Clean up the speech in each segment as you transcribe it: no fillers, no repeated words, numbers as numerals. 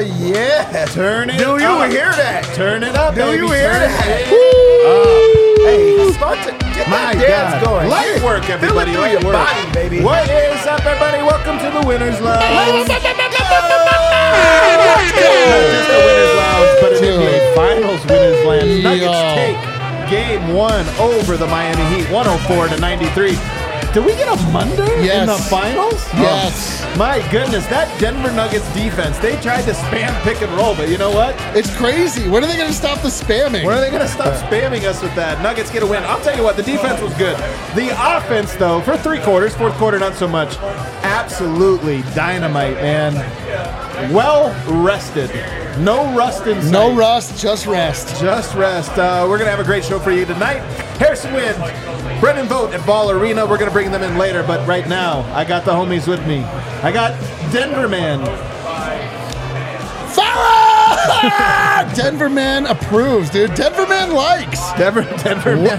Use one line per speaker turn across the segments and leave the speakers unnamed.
yeah.
Turn it
Do you
up.
hear that?
Turn it up,
Do
baby.
you hear
Turn
that?
it
Hey, start to get
My
that dance
God.
going.
Light work, everybody.
Feel it
Light
through your
work.
body, baby.
What is up, everybody? Welcome to the Winners Lounge. Not just the Winners Lounge, but an NBA Finals Winners Lounge. Nuggets take Game 1 over the Miami Heat, 104-93. Did we get a Monday in the finals?
Yes.
Oh, my goodness, that Denver Nuggets defense, they tried to spam pick and roll, but you know what?
It's crazy. When are they going to stop the spamming?
When are they going to stop spamming us with that? Nuggets get a win. I'll tell you what, the defense was good. The offense, though, for 3 quarters, fourth quarter, not so much. Absolutely dynamite, man. Well rested. No rust in sight.
No rust, just rest.
Just rest. We're going to have a great show for you tonight. Harrison Wind, Brendan Vogt at Ball Arena. We're going to bring them in later, but right now, I got the homies with me. I got Denver Man.
Farah! Denver Man approves, dude. Denver Man likes.
Denver Man.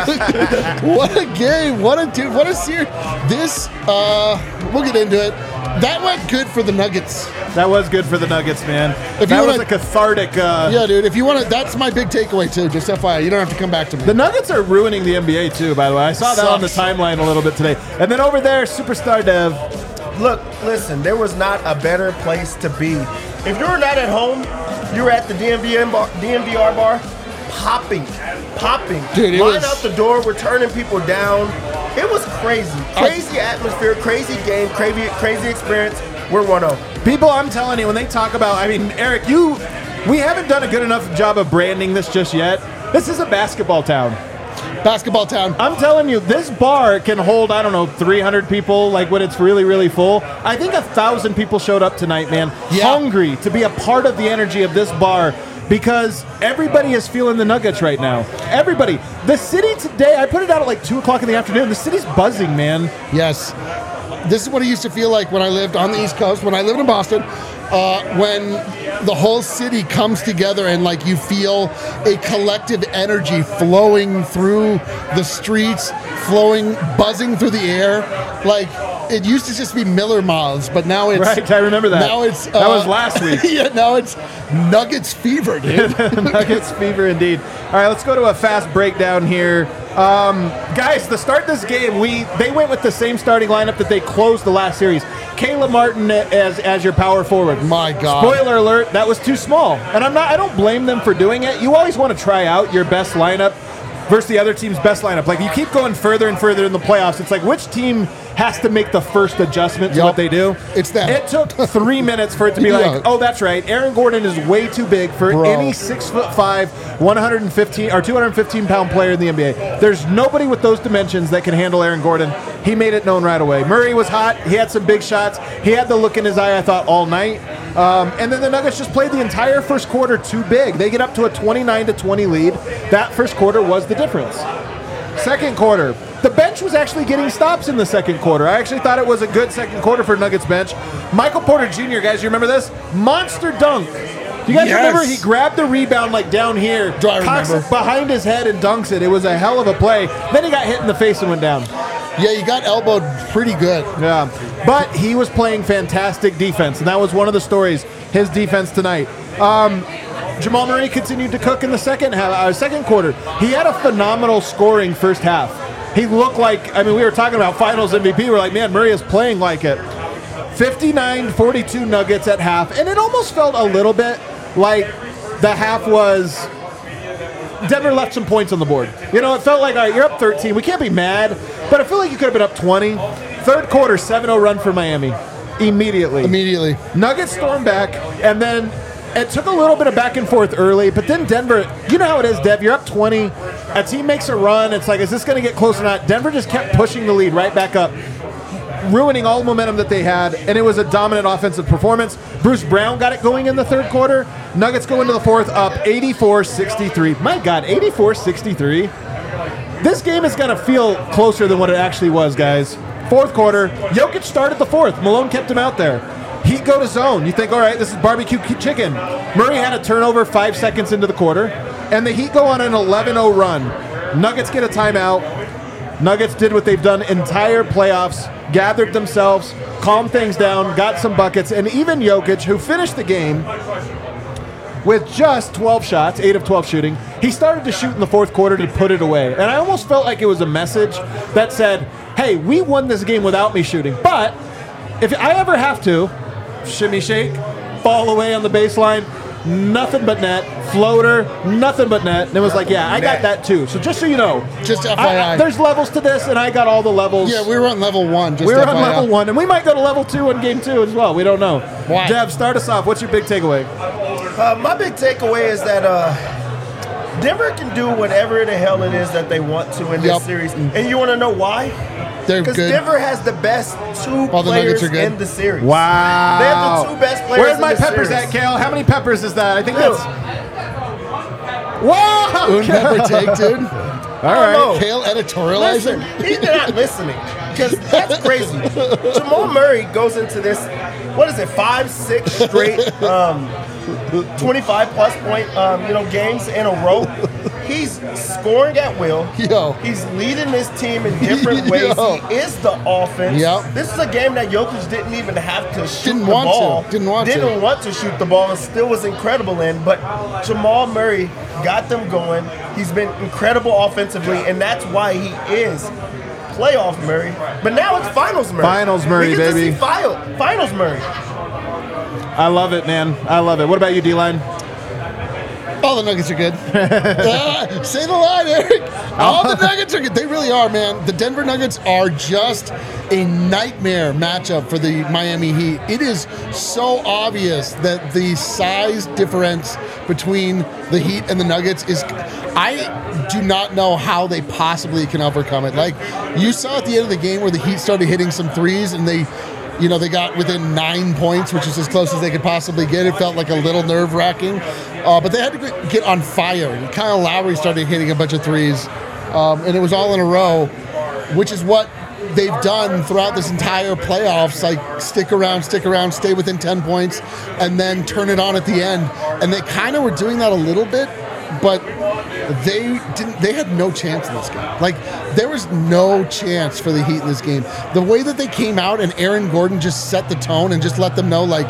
What a game. What a series. This, we'll get into it. That went good for the Nuggets.
That was good for the Nuggets, man. That was a cathartic.
Yeah, dude. If you want to, that's my big takeaway too. Just FYI, you don't have to come back to me.
The Nuggets are ruining the NBA too. By the way, I saw that on the timeline a little bit today. And then over there, Superstar Dev.
Look, listen, there was not a better place to be. If you were not at home, you were at the DNVR bar, popping.
Dude,
Line out the door, we're turning people down. It was crazy. Crazy atmosphere, crazy game, crazy experience. We're 1-0.
People, I'm telling you, when they talk about, I mean, Eric, we haven't done a good enough job of branding this just yet. This is a basketball town.
Basketball town.
I'm telling you, this bar can hold, 300 people, like when it's really, really full. I think 1,000 people showed up tonight, man, hungry to be a part of the energy of this bar because everybody is feeling the Nuggets right now. Everybody. The city today, I put it out at like 2 o'clock in the afternoon. The city's buzzing, man.
Yes. This is what it used to feel like when I lived on the East Coast, when I lived in Boston, when the whole city comes together and like you feel a collective energy flowing through the streets, buzzing through the air. Like it used to just be Miller Miles, but now it's
right. I remember that.
Now it's
that was last week.
Yeah, now it's Nuggets fever, dude.
Nuggets fever indeed. All right, let's go to a fast breakdown here. Guys, to start this game, they went with the same starting lineup that they closed the last series. Caleb Martin as your power forward.
My God.
Spoiler alert, that was too small. And I don't blame them for doing it. You always want to try out your best lineup versus the other team's best lineup. Like you keep going further and further in the playoffs. It's like which team has to make the first adjustment to what they do?
It's them.
It took 3 minutes for it to be like, oh, that's right. Aaron Gordon is way too big for any 6'5", 115 or 215-pound player in the NBA. There's nobody with those dimensions that can handle Aaron Gordon. He made it known right away. Murray was hot. He had some big shots. He had the look in his eye, I thought, all night. And then the Nuggets just played the entire first quarter too big. They get up to a 29-20 lead. That first quarter was the difference. Second quarter, the bench was actually getting stops in the second quarter. I actually thought it was a good second quarter for Nuggets bench. Michael Porter Jr., guys, you remember this? Monster dunk. You guys remember he grabbed the rebound like down here, cocks it behind his head and dunks it. It was a hell of a play. Then he got hit in the face and went down.
Yeah, you got elbowed pretty good.
Yeah, but he was playing fantastic defense, and that was one of the stories, his defense tonight. Jamal Murray continued to cook in the second quarter. He had a phenomenal scoring first half. He looked like, we were talking about finals MVP. We're like, man, Murray is playing like it. 59-42 Nuggets at half, and it almost felt a little bit like the half was Denver left some points on the board. It felt like, all right, you're up 13. We can't be mad, but I feel like you could have been up 20. Third quarter, 7-0 run for Miami. Immediately. Nuggets stormed back, and then it took a little bit of back and forth early, but then Denver, you know how it is, Dev, you're up 20, a team makes a run, it's like, is this going to get close or not? Denver just kept pushing the lead right back up, ruining all the momentum that they had, and it was a dominant offensive performance. Bruce Brown got it going in the third quarter. Nuggets go into the fourth up 84-63. My God, 84-63? This game is going to feel closer than what it actually was, guys. Fourth quarter, Jokic started the fourth. Malone kept him out there. Heat go to zone. You think, all right, this is barbecue chicken. Murray had a turnover 5 seconds into the quarter, and the Heat go on an 11-0 run. Nuggets get a timeout. Nuggets did what they've done entire playoffs, gathered themselves, calmed things down, got some buckets, and even Jokic, who finished the game with just 12 shots, 8 of 12 shooting, he started to shoot in the fourth quarter to put it away. And I almost felt like it was a message that said, hey, we won this game without me shooting, but if I ever have to, shimmy shake, fall away on the baseline, nothing but net, floater, nothing but net. And it was like, yeah, I got that too. So just so you know,
Just FYI.
there's levels to this, and I got all the levels.
Yeah, we were on level 1. Just
We were
FYI.
on level 1, and we might go to level 2 in game 2 as well. We don't know.
Why?
Dev, start us off. What's your big takeaway?
My big takeaway is that Denver can do whatever the hell it is that they want to in this
Yep.
series. And you want to know why?
They're
Because
good.
Denver has the best two
All the
players
Nuggets are good.
in the series.
Wow.
They have the two best players
Where's
in
my
the
peppers
series.
at, Kale? How many peppers is that? I think
Dude.
that's... Whoa!
Un pepper take, dude.
All right.
know.
Kale
Listen,
editorializing.
he's not listening because that's crazy. Jamal Murray goes into this, what is it, 5-6 straight 25-plus point games in a row. He's scoring at will.
Yo.
He's leading this team in different ways.
Yo.
He is the offense.
Yep.
This is a game that Jokic didn't even have to shoot
Didn't
the
want to.
ball.
Didn't want to.
shoot the ball and still was incredible in. But Jamal Murray got them going. He's been incredible offensively, and that's why he is playoff Murray. But now it's finals Murray.
Finals Murray,
we get
baby.
To see finals Murray.
I love it, man. I love it. What about you, D-Line?
All the Nuggets are good. Say the line, Eric. All the Nuggets are good. They really are, man. The Denver Nuggets are just a nightmare matchup for the Miami Heat. It is so obvious that the size difference between the Heat and the Nuggets is... I do not know how they possibly can overcome it. Like, you saw at the end of the game where the Heat started hitting some threes and they got within 9 points, which is as close as they could possibly get. It felt like a little nerve-wracking. But they had to get on fire. And Kyle Lowry started hitting a bunch of threes. And it was all in a row, which is what they've done throughout this entire playoffs. Like, stick around, stay within 10 points, and then turn it on at the end. And they kind of were doing that a little bit, but they had no chance in this game. Like, there was no chance for the Heat in this game. The way that they came out and Aaron Gordon just set the tone and just let them know, like,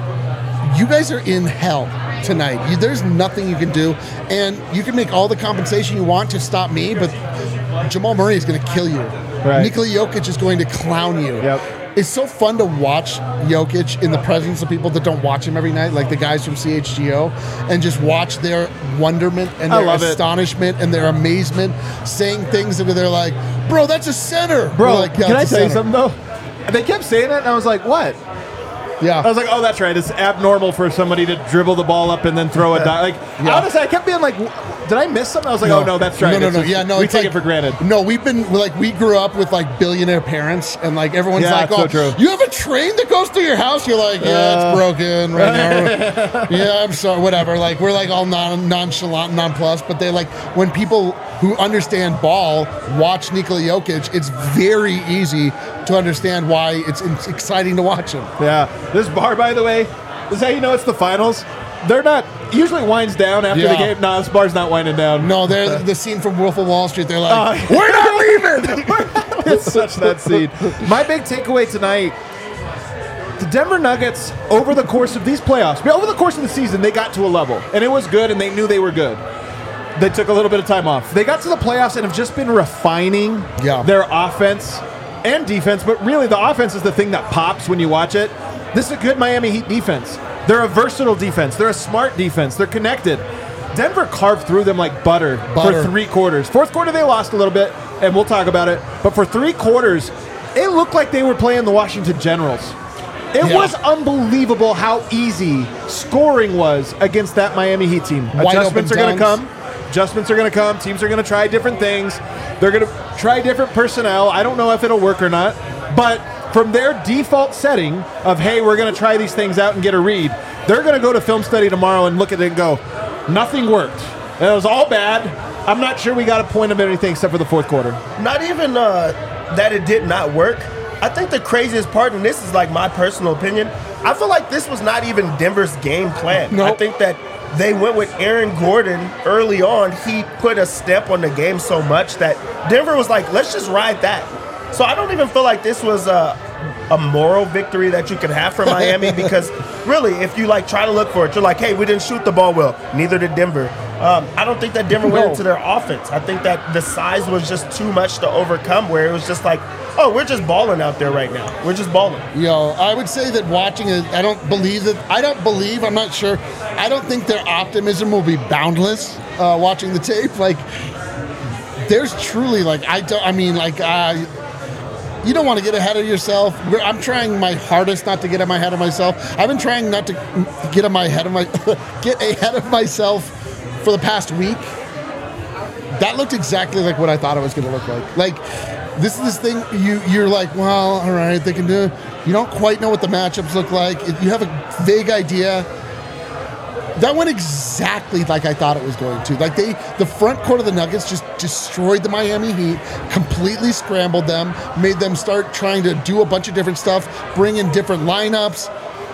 you guys are in hell tonight. There's nothing you can do, and you can make all the compensation you want to stop me, but Jamal Murray is going to kill you.
Right.
Nikola Jokic is going to clown you.
Yep.
It's so fun to watch Jokic in the presence of people that don't watch him every night, like the guys from CHGO, and just watch their wonderment and
I
their
love it.
astonishment and their amazement, saying things that they're like, bro, that's a center.
Bro,
We're like, yeah,
can I
it's a
tell you
center.
something, though? They kept saying it, and I was like, what?
Yeah.
I was like, oh, that's right. It's abnormal for somebody to dribble the ball up and then throw a dime. Like,
Yeah.
honestly, I kept being like, did I miss something? I was like, oh, no, that's right.
No.
It's just-
Yeah, no,
we
it's
take
like,
it for granted.
No, we grew up with like billionaire parents, and like everyone's
Yeah,
like,
it's
oh,
so true.
you have a train that goes through your house? You're like, yeah, it's broken right now. Yeah, I'm sorry, whatever. Like, we're like all nonchalant, nonplussed, but they like, when people who understand ball watch Nikola Jokic, it's very easy to understand why it's exciting to watch him.
Yeah. This bar, by the way, is how you know it's the finals. They're not, usually winds down after the
Yeah.
game. No, this bar's not winding down.
No, they're the scene from Wolf of Wall Street. They're like,
we're not leaving. It's such that scene. My big takeaway tonight, the Denver Nuggets, over the course of these playoffs, over the course of the season, they got to a level. And it was good, and they knew they were good. They took a little bit of time off. They got to the playoffs and have just been refining their offense and defense, but really the offense is the thing that pops when you watch it. This is a good Miami Heat defense. They're a versatile defense. They're a smart defense. They're connected. Denver carved through them like butter for 3 quarters. Fourth quarter, they lost a little bit, and we'll talk about it. But for 3 quarters, it looked like they were playing the Washington Generals. It was unbelievable how easy scoring was against that Miami Heat team.
Wide
Adjustments are
open
going to come. Adjustments are going to come. Teams are going to try different things. They're going to try different personnel. I don't know if it'll work or not. But from their default setting of, hey, we're going to try these things out and get a read, they're going to go to film study tomorrow and look at it and go, nothing worked. It was all bad. I'm not sure we got a point of anything except for the fourth quarter.
Not even that it did not work. I think the craziest part, and this is like my personal opinion, I feel like this was not even Denver's game plan.
Nope.
I think that they went with Aaron Gordon early on. He put a step on the game so much that Denver was like, let's just ride that. So I don't even feel like this was a moral victory that you could have for Miami because really, if you like try to look for it, you're like, hey, we didn't shoot the ball well. Neither did Denver. I don't think that Denver went into their offense. I think that the size was just too much to overcome where it was just like, oh, we're just balling out there right now. We're just balling.
I would say that watching it, I'm not sure. I don't think their optimism will be boundless watching the tape. Like, there's truly, you don't want to get ahead of yourself. I'm trying my hardest not to get ahead of myself. I've been trying not to get ahead of myself for the past week. That looked exactly like what I thought it was going to look like. Like, this is this thing, you're like, well, all right, they can do it. You don't quite know what the matchups look like. You have a vague idea. That went exactly like I thought it was going to. Like, the front court of the Nuggets just destroyed the Miami Heat, completely scrambled them, made them start trying to do a bunch of different stuff, bring in different lineups,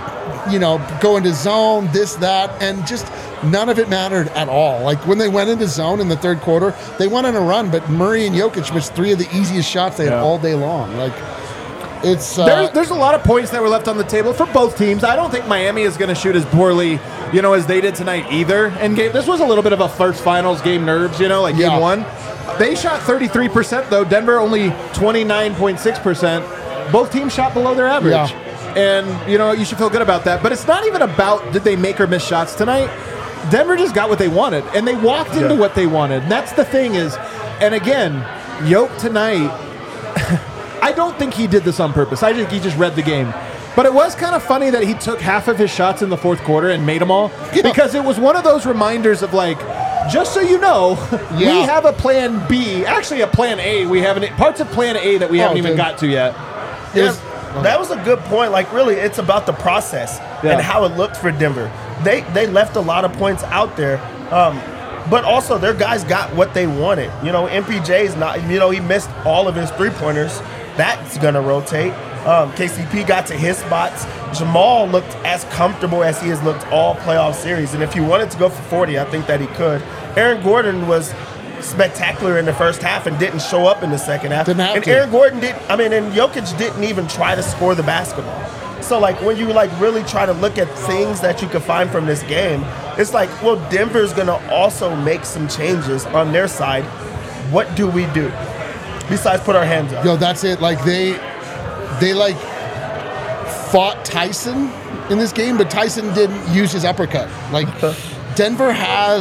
go into zone, this, that, and just none of it mattered at all. Like, when they went into zone in the third quarter, they went on a run, but Murray and Jokic missed 3 of the easiest shots they had all day long. Like, it's
there's a lot of points that were left on the table for both teams. I don't think Miami is going to shoot as poorly, as they did tonight either. And this was a little bit of a first finals game nerves, game one. They shot 33% though. Denver only 29.6%. Both teams shot below their average.
Yeah.
And you should feel good about that. But it's not even about did they make or miss shots tonight. Denver just got what they wanted, and they walked into what they wanted. And that's the thing is, and again, Yoke tonight. I don't think he did this on purpose. I think he just read the game. But it was kind of funny that he took half of his shots in the fourth quarter and made them all. Yeah. Because it was one of those reminders of like, just so you know, we have a plan B. Actually, a plan A. We haven't parts of plan A that we haven't even got to yet.
That was a good point. Like, really, it's about the process and how it looked for Denver. They left a lot of points out there. But also, their guys got what they wanted. MPJ's not, he missed all of his three-pointers. That's going to rotate. KCP got to his spots. Jamal looked as comfortable as he has looked all playoff series. And if he wanted to go for 40, I think that he could. Aaron Gordon was spectacular in the first half and didn't show up in the second half. And Aaron Gordon and Jokic didn't even try to score the basketball. So, when you, really try to look at things that you could find from this game, it's like, well, Denver's going to also make some changes on their side. What do we do besides put our hands up?
That's it. Like, they fought Tyson in this game, but Tyson didn't use his uppercut. Like, Denver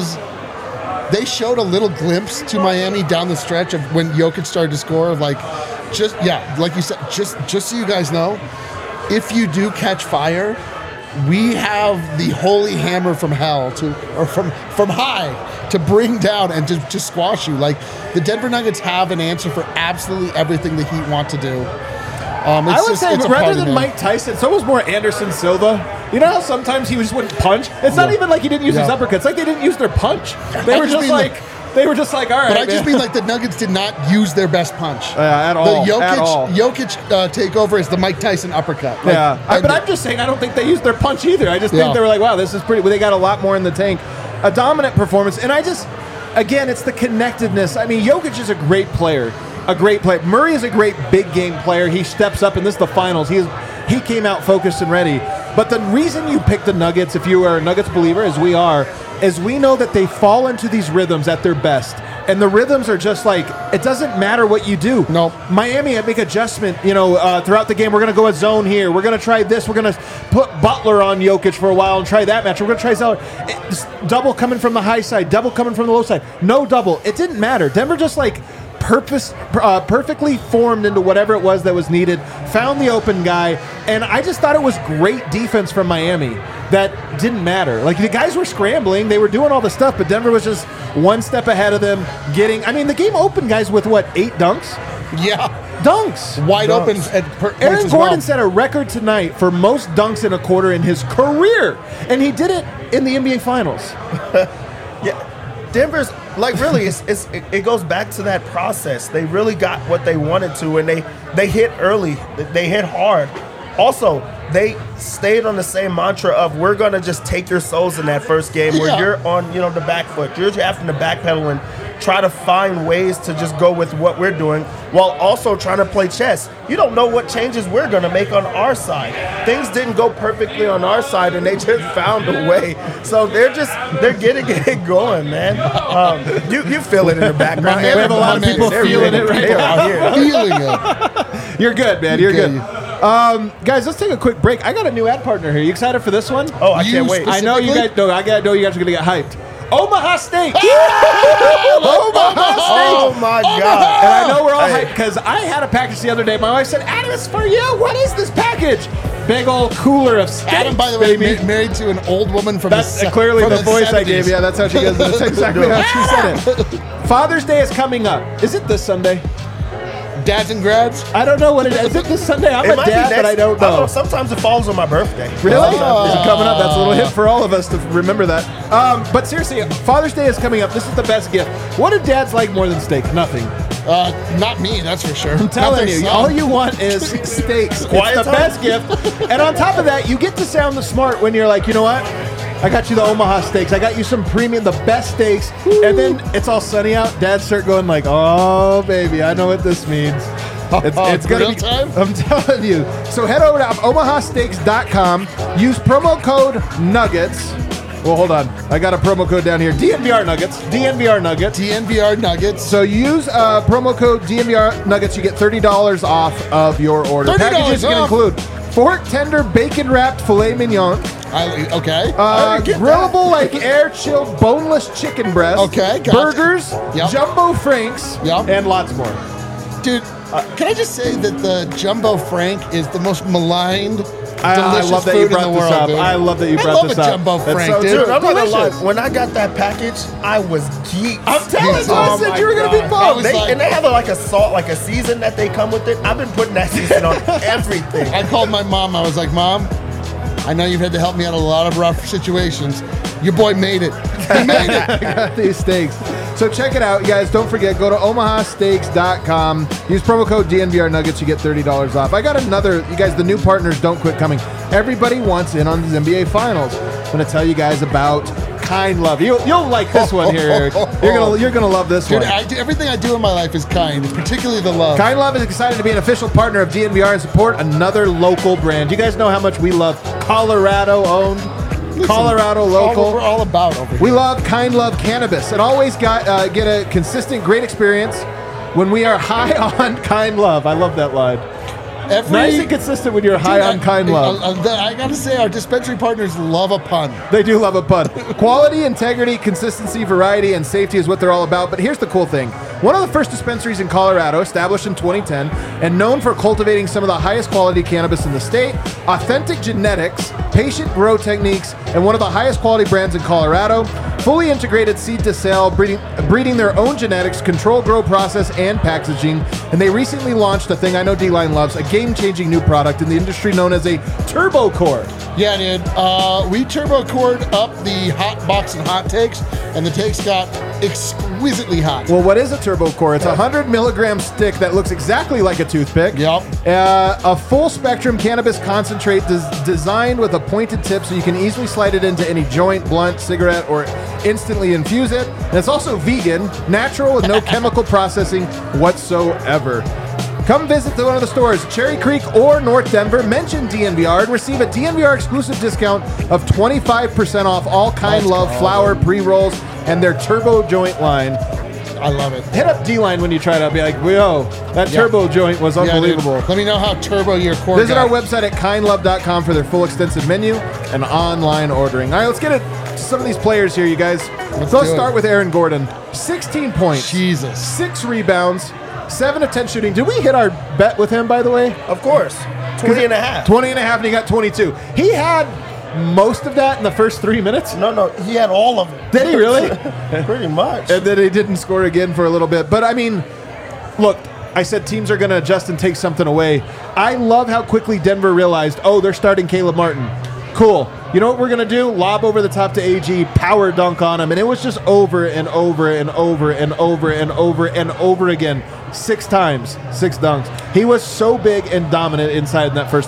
they showed a little glimpse to Miami down the stretch of when Jokic started to score. Like you said, just so you guys know, if you do catch fire, we have the holy hammer from hell from high to bring down and to squash you. Like, the Denver Nuggets have an answer for absolutely everything the Heat want to do.
I would say rather than Mike Tyson, it's almost more Anderson Silva. You know how sometimes he just wouldn't punch? It's not even like he didn't use his uppercuts. It's like they didn't use their punch. They were just like, all right.
But I just mean like the Nuggets did not use their best punch.
At all.
The
Jokic
takeover is the Mike Tyson uppercut.
But I'm just saying I don't think they used their punch either. I just think they were like, wow, this is pretty. They got a lot more in the tank. A dominant performance. And again, it's the connectedness. I mean, Jokic is a great player. Murray is a great big game player. He steps up, and this is the finals. He came out focused and ready. But the reason you pick the Nuggets, if you are a Nuggets believer, as we are, is we know that they fall into these rhythms at their best. And the rhythms are just like, it doesn't matter what you do.
No.
Miami, make adjustment, throughout the game. We're going to go a zone here. We're going to try this. We're going to put Butler on Jokic for a while and try that match. We're going to try Zeller. Double coming from the high side, double coming from the low side. No double. It didn't matter. Denver just perfectly formed into whatever it was that was needed, found the open guy, and I just thought it was great defense from Miami that didn't matter. Like, the guys were scrambling, they were doing all the stuff, but Denver was just one step ahead of them, the game opened, guys, with 8 dunks?
Yeah.
Dunks.
Wide open.
Aaron Gordon set a record tonight for most dunks in a quarter in his career, and he did it in the NBA Finals.
Yeah. Denver's really, it goes back to that process. They really got what they wanted to, and they hit early. They hit hard. Also, they stayed on the same mantra of we're going to just take your souls in that first game where you're on, the back foot. You're having to backpedal and try to find ways to just go with what we're doing while also trying to play chess. You don't know what changes we're going to make on our side. Things didn't go perfectly on our side, and they just found a way. So they're getting it going, man. You feel it in the background.
We have a lot of people feeling it right now.
Feeling it.
You're good, man. You're good. Guys, let's take a quick break. I got a new ad partner here. You excited for this one?
Oh, I can't wait.
I know you guys. No, I know you guys are gonna get hyped. Omaha Steaks. Omaha Steaks.
Oh my God.
And I know we're all hyped because I had a package the other day. My wife said, "Adam, it's for you. What is this package?" Big old cooler of steaks.
Adam, by the way,
baby.
Married to an old woman from
That's clearly the voice
70s.
I gave. Yeah, that's how she goes. That's exactly how she said it. Father's Day is coming up. Is it this Sunday?
Dads and grads?
I don't know what it is. Is it this Sunday? I'm
It
a
might be
dad, but I don't know.
Sometimes it falls on my birthday.
Really? Is it coming up? That's a little hint for all of us to remember that. But seriously, Father's Day is coming up. This is the best gift. What do dads like more than steak? Nothing.
Not me, that's for sure.
I'm telling you, all you want is steaks.
Quiet
It's the
time.
best gift. And on top of that, you get to sound the smart when you're like, you know what? I got you the Omaha Steaks. I got you some premium, the best steaks. Woo. And then it's all sunny out. Dads start going like, oh, baby, I know what this means. It's gonna be
time?
I'm telling you. So head over to omahasteaks.com. Use promo code Nuggets. Well, hold on. I got a promo code down here. DNVR Nuggets. DNVR Nuggets.
DNVR Nuggets.
So use promo code DNVR Nuggets. You get $30 off of your order.
$30
Packages can
off.
include fork tender bacon wrapped filet mignon,
Okay.
grillable like air chilled boneless chicken breast,
Okay, gotcha.
burgers,
Yep.
jumbo franks,
Yep.
and lots more.
Dude, can I just say that the Jumbo Frank is the most maligned,
I
delicious
love that
food
you
in the
brought this
world,
up.
dude.
I love that you
I
brought
love
this
a
up.
Jumbo
That's
Frank,
so
dude.
Dude, I'm not gonna lie.
delicious.
When I got that package, I was geeked.
I'm telling you, I
Oh
said
my
you were gonna be
God.
pumped.
And they have like a salt, like a season that they come with it. I've been putting that season on everything.
I called my mom. I was like, Mom, I know you've had to help me out in a lot of rough situations. Your boy made it. He made it.
I got these steaks. So check it out, you guys. Don't forget, go to omahasteaks.com. Use promo code DNVR Nuggets. You get $30 off. I got another, you guys, the new partners don't quit coming. Everybody wants in on these NBA Finals. I'm going to tell you guys about Kind Love. You'll like this one here, Eric. You're gonna love this
Dude,
one.
everything I do in my life is kind, particularly the love.
Kind Love is excited to be an official partner of DNVR and support another local brand. You guys know how much we love Colorado owned, Colorado local.
We're all about over here.
We love Kind Love Cannabis and always get a consistent, great experience when we are high on Kind Love. I love that line. Nice and consistent when you're high on Kind Love.
I gotta say, our dispensary partners love a pun.
They do love a pun. Quality, integrity, consistency, variety, and safety is what they're all about. But here's the cool thing. One of the first dispensaries in Colorado, established in 2010, and known for cultivating some of the highest quality cannabis in the state, authentic genetics, patient grow techniques, and one of the highest quality brands in Colorado, fully integrated seed to sale, breeding their own genetics, control grow process, and packaging. And they recently launched a thing I know D-Line loves, a game-changing new product in the industry known as a Turbo Core.
Yeah, dude. We turbo cored up the hot box and hot takes, and the takes got exquisitely hot.
Well, what is a Turbo Core? It's a 100 milligram stick that looks exactly like a toothpick.
Yep.
A full spectrum cannabis concentrate designed with a pointed tip so you can easily slide it into any joint, blunt, cigarette, or instantly infuse it. And it's also vegan, natural, with no chemical processing whatsoever. Come visit one of the stores, Cherry Creek or North Denver. Mention DNVR and receive a DNVR exclusive discount of 25% off all Kind Love flower pre-rolls and their Turbo Joint line.
I love it.
Hit up D-Line when you try it out. Be like, whoa, that Turbo Joint was unbelievable.
Dude. Let me know how turbo your core
Visit
got.
our website at kindlove.com for their full extensive menu and online ordering. All right, let's get to some of these players here, you guys. Let's
do
start
it.
with Aaron Gordon. 16 points.
Jesus.
6 rebounds. 7 of 10 shooting. Did we hit our bet with him, by the way?
Of course. 20 and a half.
20 and a half, and he got 22. He had most of that in the first 3 minutes.
No, he had all of it.
Did he really?
Pretty much.
And then he didn't score again for a little bit. But, I mean, look, I said teams are going to adjust and take something away. I love how quickly Denver realized, oh, they're starting Caleb Martin. Cool. You know what we're going to do? Lob over the top to AG, power dunk on him. And it was just over and over and over and over and over and over again. 6 times, 6 dunks. He was so big and dominant inside in that first half.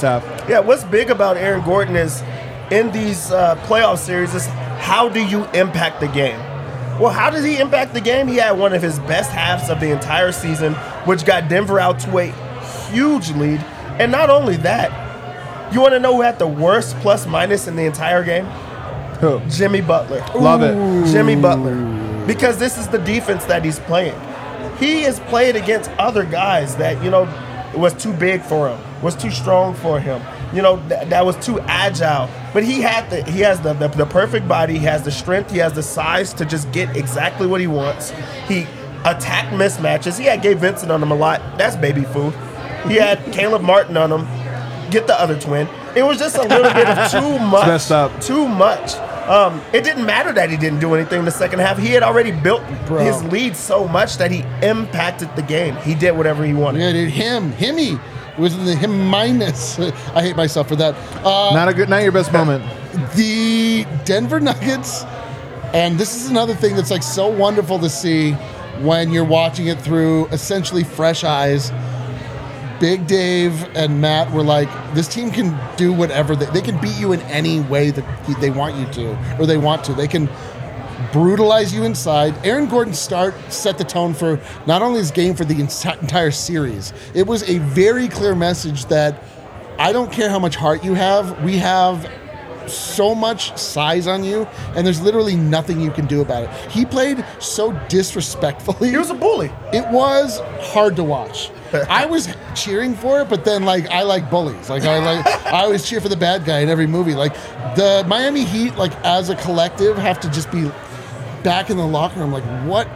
Yeah, what's big about Aaron Gordon is in these playoff series is how do you impact the game? Well, how did he impact the game? He had one of his best halves of the entire season, which got Denver out to a huge lead. And not only that, you want to know who had the worst plus-minus in the entire game?
Who?
Jimmy Butler.
Love it.
Jimmy Butler. Because this is the defense that he's playing. He has played against other guys that, was too big for him, was too strong for him, that was too agile. But he has the perfect body, he has the strength, he has the size to just get exactly what he wants. He attacked mismatches. He had Gabe Vincent on him a lot. That's baby food. He had Caleb Martin on him. Get the other twin. It was just a little bit of too much.
Messed up.
Too much. It didn't matter that he didn't do anything in the second half. He had already built his lead so much that he impacted the game. He did whatever he wanted.
Yeah, dude, Himmy was in the him minus. I hate myself for that.
Not your best moment.
The Denver Nuggets, and this is another thing that's like so wonderful to see when you're watching it through essentially fresh eyes. Big Dave and Matt were like, this team can do whatever. They can beat you in any way that they want you to, or they want to. They can brutalize you inside. Aaron Gordon's start set the tone for not only his game, for the entire series. It was a very clear message that I don't care how much heart you have. We have so much size on you, and there's literally nothing you can do about it. He played so disrespectfully.
He was a bully.
It was hard to watch. I was cheering for it, but then I like bullies. I always cheer for the bad guy in every movie. Like the Miami Heat, as a collective, have to just be back in the locker room. What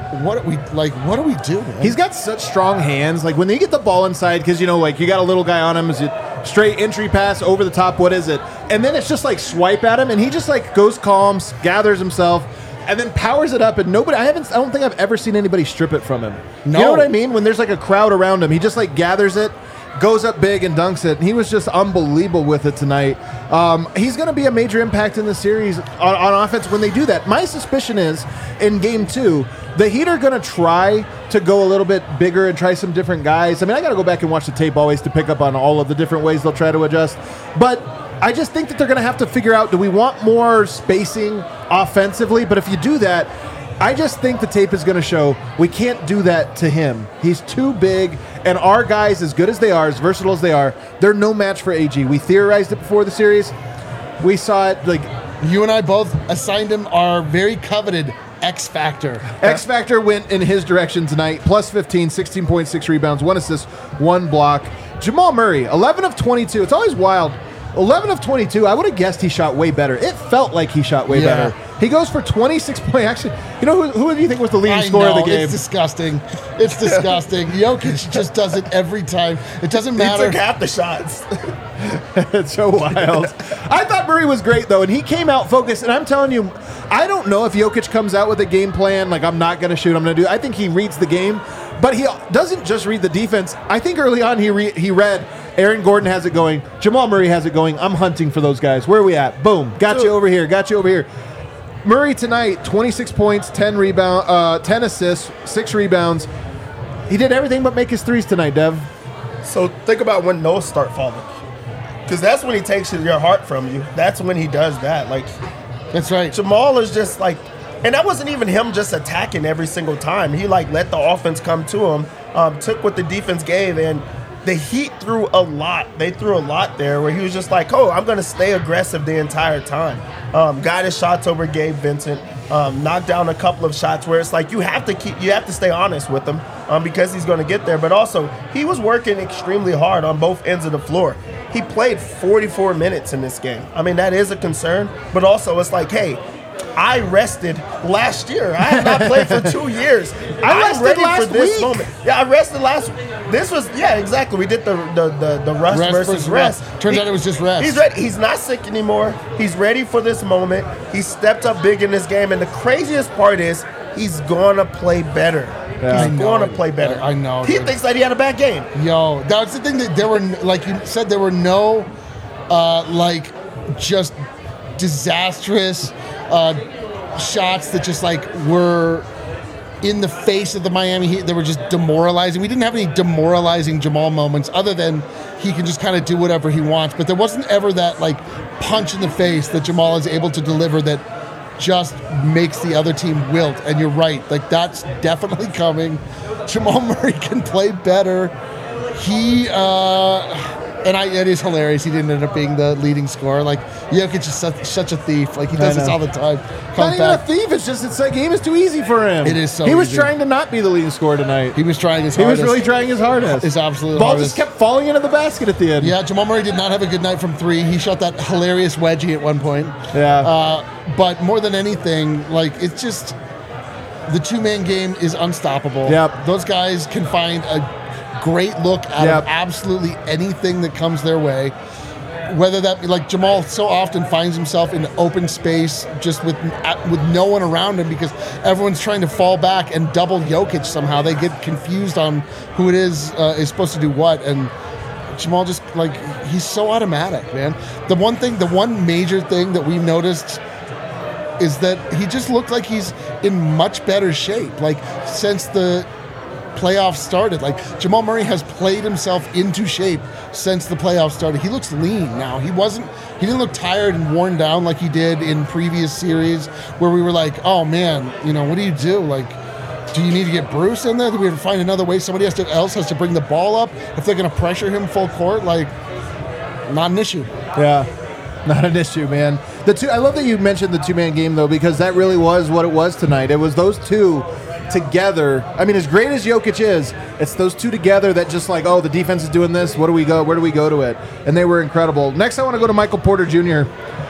do we do, man?
He's got such strong hands. When they get the ball inside, because you got a little guy on him, is it straight entry pass over the top? What is it? And then it's just swipe at him, and he just goes calm, gathers himself, and then powers it up. And I don't think I've ever seen anybody strip it from him.
No.
You know what I mean? When there's a crowd around him, he just gathers it, goes up big and dunks it. And he was just unbelievable with it tonight. He's going to be a major impact in the series on offense when they do that. My suspicion is in Game 2, the Heat are going to try to go a little bit bigger and try some different guys. I mean, I got to go back and watch the tape always to pick up on all of the different ways they'll try to adjust. But I just think that they're going to have to figure out, do we want more spacing offensively? But if you do that, I just think the tape is going to show we can't do that to him. He's too big, and our guys, as good as they are, as versatile as they are, they're no match for AG. We theorized it before the series. We saw it.
You and I both assigned him our very coveted X Factor.
X Factor went in his direction tonight. Plus 15, 16.6 rebounds, 1 assist, 1 block. Jamal Murray, 11 of 22. It's always wild. 11 of 22. I would have guessed he shot way better. It felt like he shot way better. He goes for 26 points. Actually, who do you think was the leading scorer of the game?
It's disgusting. It's disgusting. Jokic just does it every time. It doesn't matter.
He took half the shots.
It's so wild. I thought Murray was great, though, and he came out focused. And I'm telling you, I don't know if Jokic comes out with a game plan, I'm not going to shoot, I'm going to do. I think he reads the game, but he doesn't just read the defense. I think early on he read Aaron Gordon has it going, Jamal Murray has it going, I'm hunting for those guys. Where are we at? Boom. Got you over here. Murray tonight, 26 points, 10 assists, 6 rebounds. He did everything but make his threes tonight, Dev.
So think about when those start falling. Because that's when he takes your heart from you. That's when he does that.
That's right.
Jamal is just and that wasn't even him just attacking every single time. He let the offense come to him, took what the defense gave, and the Heat threw a lot. They threw a lot there where he was just I'm going to stay aggressive the entire time. Got his shots over Gabe Vincent, knocked down a couple of shots where it's you have to stay honest with him because he's going to get there. But also, he was working extremely hard on both ends of the floor. He played 44 minutes in this game. I mean, that is a concern, but also it's hey, I rested last year. I have not played for 2 years.
I'm ready for this
moment. Yeah, I rested last week. This was, exactly. We did the rest versus rest.
Turns out it was just rest.
He's ready. He's not sick anymore. He's ready for this moment. He stepped up big in this game. And the craziest part is he's going to play better.
Yeah.
He's going to play better.
I know.
He thinks that he had a bad game.
Yo, that's the thing that there were, like you said, there were no, just disastrous shots that just were in the face of the Miami Heat. They were just demoralizing. We didn't have any demoralizing Jamal moments other than he can just kind of do whatever he wants. But there wasn't ever that like punch in the face that Jamal is able to deliver that just makes the other team wilt. And you're right. Like that's definitely coming. Jamal Murray can play better. It is hilarious. He didn't end up being the leading scorer. Like Jokic is such a thief. Like he does this all the time.
Not even a thief. It's just the game is too easy for him.
It is so.
He was
easy.
trying to not be the leading scorer tonight.
He was trying his hardest.
He was really trying his hardest.
His absolute
ball
hardest.
just kept falling into the basket at the end.
Yeah, Jamal Murray did not have a good night from three. He shot that hilarious wedgie at one point.
Yeah.
But more than anything, like it's just the two-man game is unstoppable.
Yep.
Those guys can find a great look out of absolutely anything that comes their way. Whether that be like Jamal so often finds himself in open space just with no one around him because everyone's trying to fall back and double Jokic somehow. They get confused on who it is supposed to do what, and Jamal just like he's so automatic, man. The one major thing that we've noticed is that he just looked like he's in much better shape. Like since the playoffs started, like Jamal Murray has played himself into shape since the playoffs started. He looks lean now. He didn't look tired and worn down like he did in previous series where we were like, oh man, what do you do? Like, do you need to get Bruce in there? Do we have to find another way? Somebody else has to bring the ball up if they're going to pressure him full court. Like, not an issue.
Yeah, not an issue, man. I love that you mentioned the two-man game though, because that really was what it was tonight. It was those two together. I mean, as great as Jokic is, it's those two together that just like, oh, the defense is doing this. Where do we go to it? And they were incredible. Next, I want to go to Michael Porter Jr.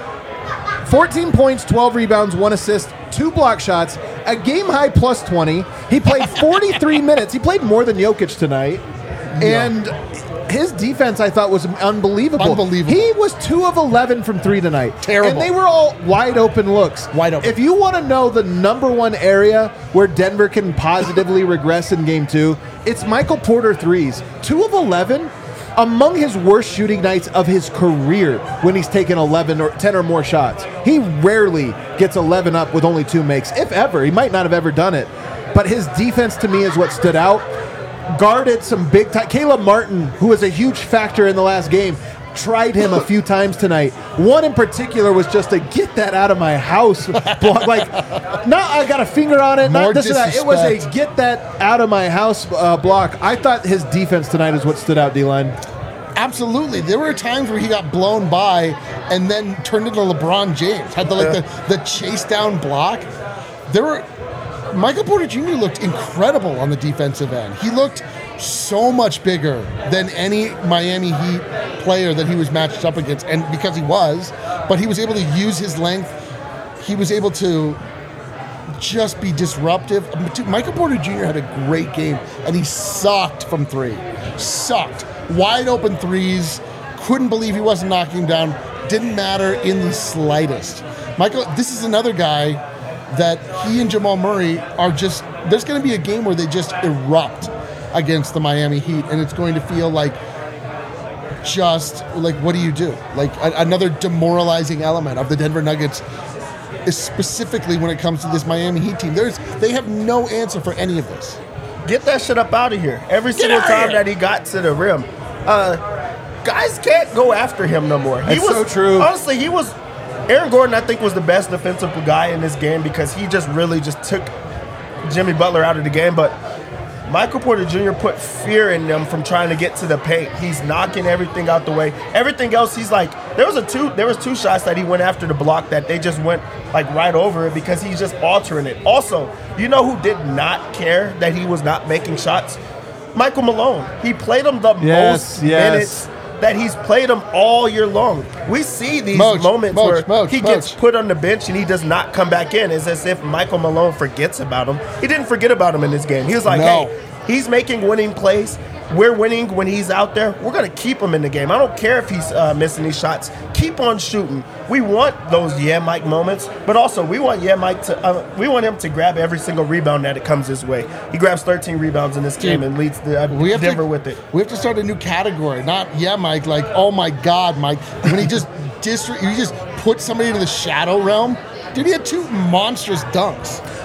14 points, 12 rebounds, 1 assist, 2 block shots, a game-high plus 20. He played 43 minutes. He played more than Jokic tonight. And his defense, I thought, was unbelievable. He was 2 of 11 from 3 tonight.
Terrible.
And they were all wide-open looks.
Wide open.
If you want to know the number one area where Denver can positively regress in Game 2, it's Michael Porter threes. 2 of 11, among his worst shooting nights of his career when he's taken 11 or 10 or more shots. He rarely gets 11 up with only 2 makes, if ever. He might not have ever done it. But his defense, to me, is what stood out. Guarded some big time. Caleb Martin, who was a huge factor in the last game, tried him a few times tonight. One in particular was just to get that out of my house. Like, not I got a finger on it, not this or that. It was a get that out of my house block. I thought his defense tonight is what stood out, D-Line.
Absolutely. There were times where he got blown by and then turned into LeBron James. Had the chase down block. Michael Porter Jr. looked incredible on the defensive end. He looked so much bigger than any Miami Heat player that he was matched up against, and because he was, but he was able to use his length. He was able to just be disruptive. Michael Porter Jr. had a great game, and he sucked from 3. Sucked. Wide open threes. Couldn't believe he wasn't knocking him down. Didn't matter in the slightest. Michael, this is another guy that he and Jamal Murray are just, there's going to be a game where they just erupt against the Miami Heat, and it's going to feel like just, like, what do you do? Like, another demoralizing element of the Denver Nuggets, specifically when it comes to this Miami Heat team. They have no answer for any of this.
Get that shit up out of here. Every single time that he got to the rim, guys can't go after him no more.
That's so true.
Honestly, Aaron Gordon, I think, was the best defensive guy in this game because he just really just took Jimmy Butler out of the game. But Michael Porter Jr. put fear in them from trying to get to the paint. He's knocking everything out the way. Everything else, he's like, there was 2 shots that he went after the block that they just went like right over it because he's just altering it. Also, you know who did not care that he was not making shots? Michael Malone. He played him the most minutes that he's played him all year long. We see these moments where he gets put on the bench and he does not come back in. It's as if Michael Malone forgets about him. He didn't forget about him in this game. He was like, hey, he's making winning plays. We're winning when he's out there. We're going to keep him in the game. I don't care if he's missing these shots. Keep on shooting. We want those Mike moments, but also we want Mike to. We want him to grab every single rebound that it comes his way. He grabs 13 rebounds in this game and leads Denver with it.
We have to start a new category, not Mike. Like, oh my God, Mike. When he just put somebody into the shadow realm. Dude, he had 2 monstrous dunks.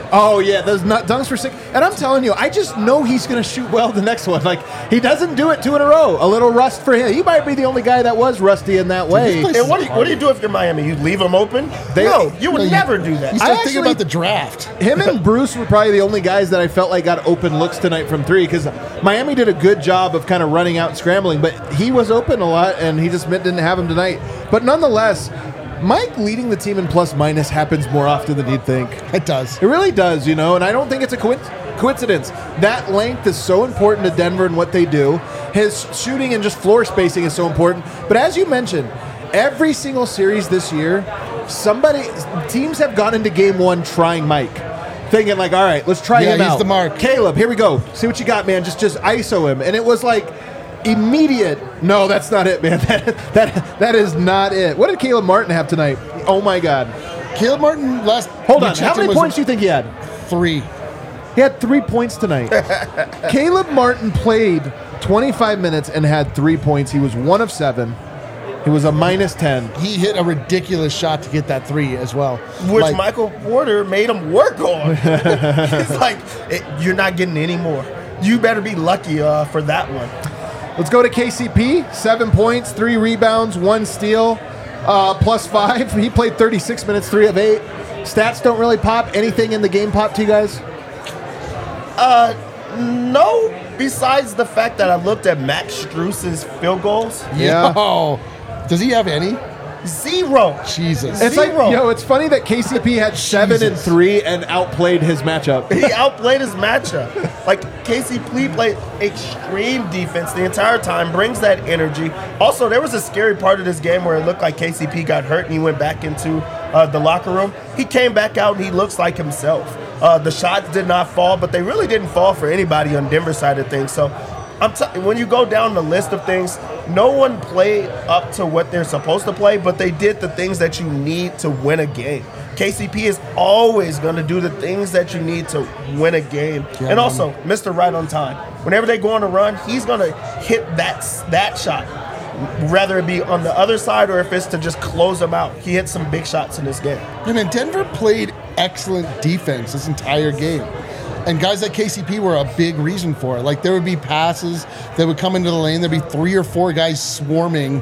Oh, yeah, those nut dunks were sick. And I'm telling you, I just know he's going to shoot well the next one. Like, he doesn't do it 2 in a row. A little rust for him. He might be the only guy that was rusty in that way.
And what do you do if you're Miami? You leave them open? No, you would never do that.
You start thinking about the draft.
Him and Bruce were probably the only guys that I felt like got open looks tonight from 3 because Miami did a good job of kind of running out and scrambling, but he was open a lot, and he just didn't have him tonight. But nonetheless, Mike leading the team in plus-minus happens more often than you'd think.
It does.
It really does, and I don't think it's a coincidence. That length is so important to Denver and what they do. His shooting and just floor spacing is so important. But as you mentioned, every single series this year, teams have gone into game 1 trying Mike. Thinking like, all right, let's try him out.
He's the mark.
Caleb, here we go. See what you got, man. Just ISO him. And it was like immediate. No, that's not it, man. That is not it. What did Caleb Martin have tonight? Oh my God.
Caleb Martin
Hold on. How many points do you think he had?
3.
He had 3 points tonight. Caleb Martin played 25 minutes and had 3 points. He was 1 of 7. He was a -10.
He hit a ridiculous shot to get that 3 as well.
Which Michael Porter made him work on. It's like, you're not getting any more. You better be lucky for that one.
Let's go to KCP. 7 points, 3 rebounds, 1 steal, +5. He played 36 minutes, 3 of 8. Stats don't really pop. Anything in the game pop to you guys?
No, besides the fact that I looked at Max Strus's field goals.
Yeah.
Yo, does he have any?
0.
Jesus.
It's
0.
like, it's funny that KCP had 7 and 3 and outplayed his matchup.
He outplayed his matchup. Like, KCP played extreme defense the entire time, brings that energy. Also, there was a scary part of this game where it looked like KCP got hurt and he went back into the locker room. He came back out and he looks like himself. The shots did not fall, but they really didn't fall for anybody on Denver's side of things. So when you go down the list of things, no one played up to what they're supposed to play, but they did the things that you need to win a game. KCP is always going to do the things that you need to win a game. Yeah, and also, Mr. Right on time. Whenever they go on a run, he's going to hit that shot, whether it be on the other side or if it's to just close them out. He hit some big shots in this game.
And Denver played excellent defense this entire game. And guys like KCP were a big reason for it. Like, there would be passes that would come into the lane. There'd be 3 or 4 guys swarming.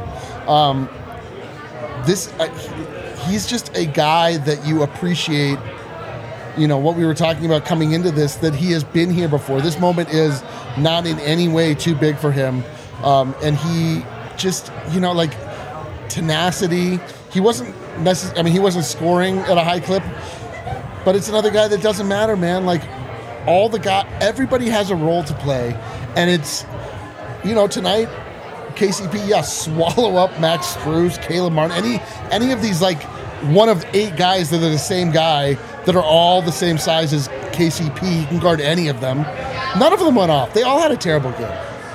He's just a guy that you appreciate, what we were talking about coming into this, that he has been here before. This moment is not in any way too big for him. And he just, tenacity. He wasn't he wasn't scoring at a high clip, but it's another guy that doesn't matter, man. Like, everybody has a role to play, and it's, tonight, KCP, swallow up Max Strus, Caleb Martin, any of these, like, 1 of 8 guys that are the same guy, that are all the same size as KCP. He can guard any of them. None of them went off. They all had a terrible game.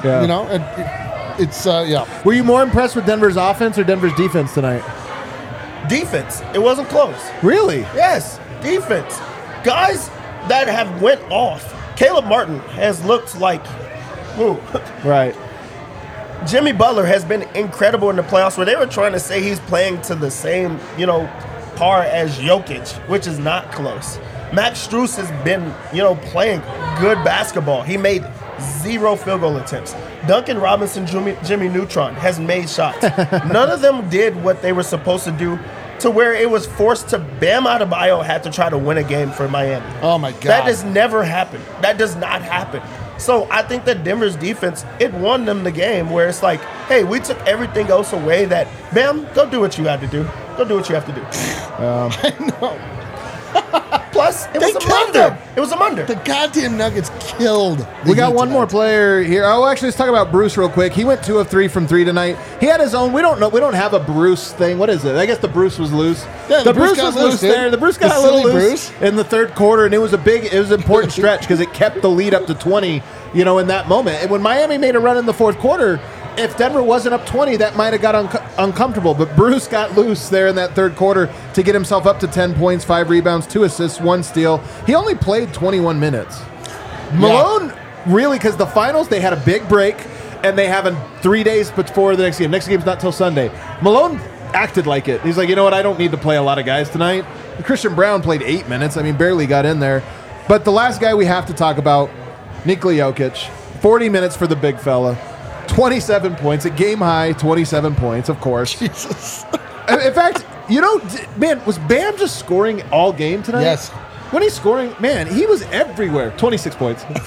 Yeah.
Were you more impressed with Denver's offense or Denver's defense tonight?
Defense. It wasn't close.
Really?
Yes, defense. Guys that have went off. Caleb Martin has looked like,
right.
Jimmy Butler has been incredible in the playoffs, where they were trying to say he's playing to the same, par as Jokic, which is not close. Max Strus has been, playing good basketball. He made 0 field goal attempts. Duncan Robinson, Jimmy Neutron has made shots. None of them did what they were supposed to do, to where it was forced to Bam Adebayo had to try to win a game for Miami.
Oh, my God.
That has never happened. That does not happen. So I think that Denver's defense, it won them the game, where it's like, hey, we took everything else away. That, Bam, go do what you had to do. Go do what you have to do.
I know.
Plus, it was a Munder. It was a Munder.
The goddamn Nuggets killed.
We got one more player here. Oh, actually, let's talk about Bruce real quick. He went 2 of 3 from 3 tonight. He had his own. We don't know. We don't have a Bruce thing. What is it? I guess the Bruce was loose.
Yeah,
the Bruce was loose there. The Bruce got a little loose in the third quarter, and it was an important stretch because it kept the lead up to 20. In that moment, and when Miami made a run in the fourth quarter, if Denver wasn't up 20, that might have got uncomfortable. But Bruce got loose there in that third quarter to get himself up to 10 points, 5 rebounds, 2 assists, 1 steal. He only played 21 minutes. Malone, really, because the finals, they had a big break, and they have 3 days before the next game. Next game's not till Sunday. Malone acted like it. He's like, you know what, I don't need to play a lot of guys tonight. Christian Brown played 8 minutes. Barely got in there. But the last guy we have to talk about, Nikola Jokic, 40 minutes for the big fella, 27 points, a game high, 27 points, of course.
Jesus.
In fact, man, was Bam just scoring all game tonight?
Yes.
When he's scoring, man, he was everywhere. 26 points. By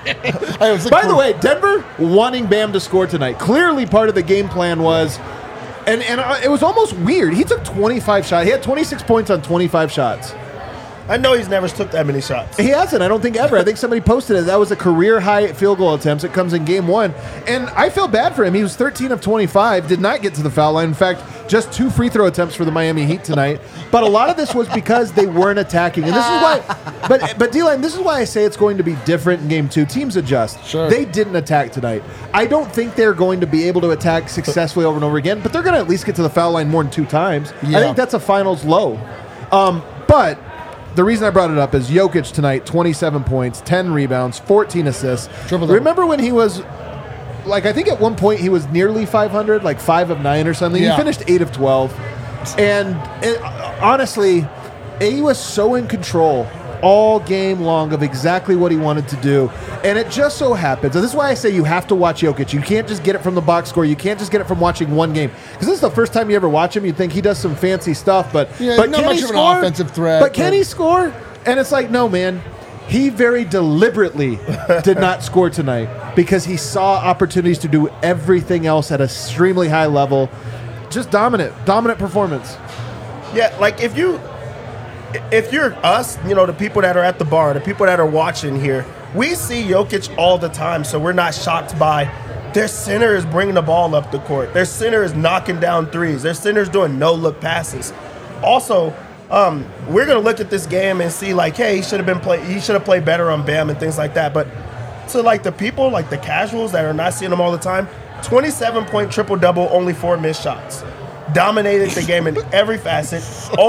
By
the way, Denver wanting Bam to score tonight. Clearly part of the game plan was, and it was almost weird. He took 25 shots. He had 26 points on 25 shots.
I know he's never took that many shots.
He hasn't. I don't think ever. I think somebody posted it. That was a career high field goal attempts. It comes in game 1. And I feel bad for him. He was 13 of 25, did not get to the foul line. In fact, just 2 free throw attempts for the Miami Heat tonight. But a lot of this was because they weren't attacking. And this is why, but D-Line, this is why I say it's going to be different in game 2. Teams adjust.
Sure.
They didn't attack tonight. I don't think they're going to be able to attack successfully over and over again, but they're going to at least get to the foul line more than 2 times.
Yeah.
I think that's a finals low. But the reason I brought it up is Jokic tonight, 27 points, 10 rebounds, 14 assists.
Triple-double.
Remember when he was, I think at one point he was nearly 500, like 5 of 9 or something.
Yeah.
He finished 8 of 12. And honestly, he was so in control all game long of exactly what he wanted to do. And it just so happens, and this is why I say you have to watch Jokic. You can't just get it from the box score. You can't just get it from watching one game. Because this is the first time you ever watch him. You'd think he does some fancy stuff, but
not
can
much
he
of
score?
an offensive threat.
But can he score? And it's like, no, man. He very deliberately did not score tonight because he saw opportunities to do everything else at an extremely high level. Just dominant performance.
Yeah, like if you're us, the people that are at the bar, the people that are watching here, we see Jokic all the time, so we're not shocked by their center is bringing the ball up the court. Their center is knocking down threes. Their center is doing no-look passes. Also, we're going to look at this game and see, hey, he should have played better on Bam and things like that. But to, the people, the casuals that are not seeing him all the time, 27-point triple-double, only 4 missed shots. Dominated the game in every facet.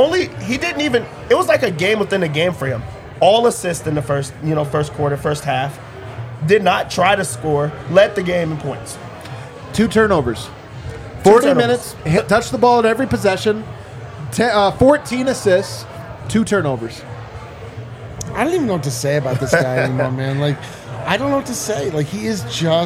It was like a game within a game for him. All assists in the first quarter, first half. Did not try to score. Led the game in points.
2 turnovers. 40 minutes. Touched the ball at every possession. 14 assists. 2 turnovers.
I don't even know what to say about this guy anymore, man. I don't know what to say. He's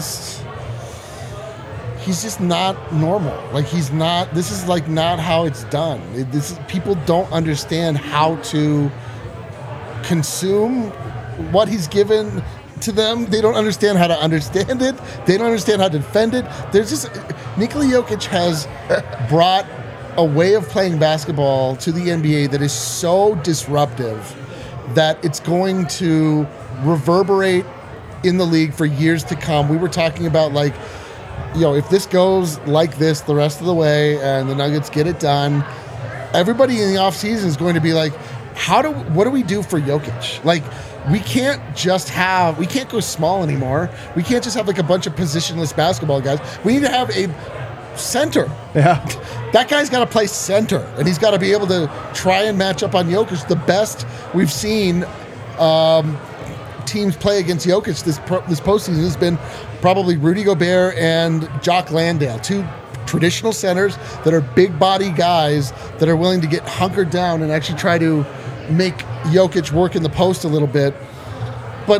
just not normal. This is not how it's done. People don't understand how to consume what he's given to them. They don't understand how to understand it. They don't understand how to defend it. Nikola Jokic has brought a way of playing basketball to the NBA that is so disruptive that it's going to reverberate in the league for years to come. We were talking about if this goes like this the rest of the way and the Nuggets get it done, everybody in the offseason is going to be like, what do we do for Jokic? We can't go small anymore. We can't just have a bunch of positionless basketball guys. We need to have a center.
Yeah.
That guy's got to play center, and he's got to be able to try and match up on Jokic. The best we've seen teams play against Jokic this postseason has been probably Rudy Gobert and Jock Landale, 2 traditional centers that are big body guys that are willing to get hunkered down and actually try to make Jokic work in the post a little bit. But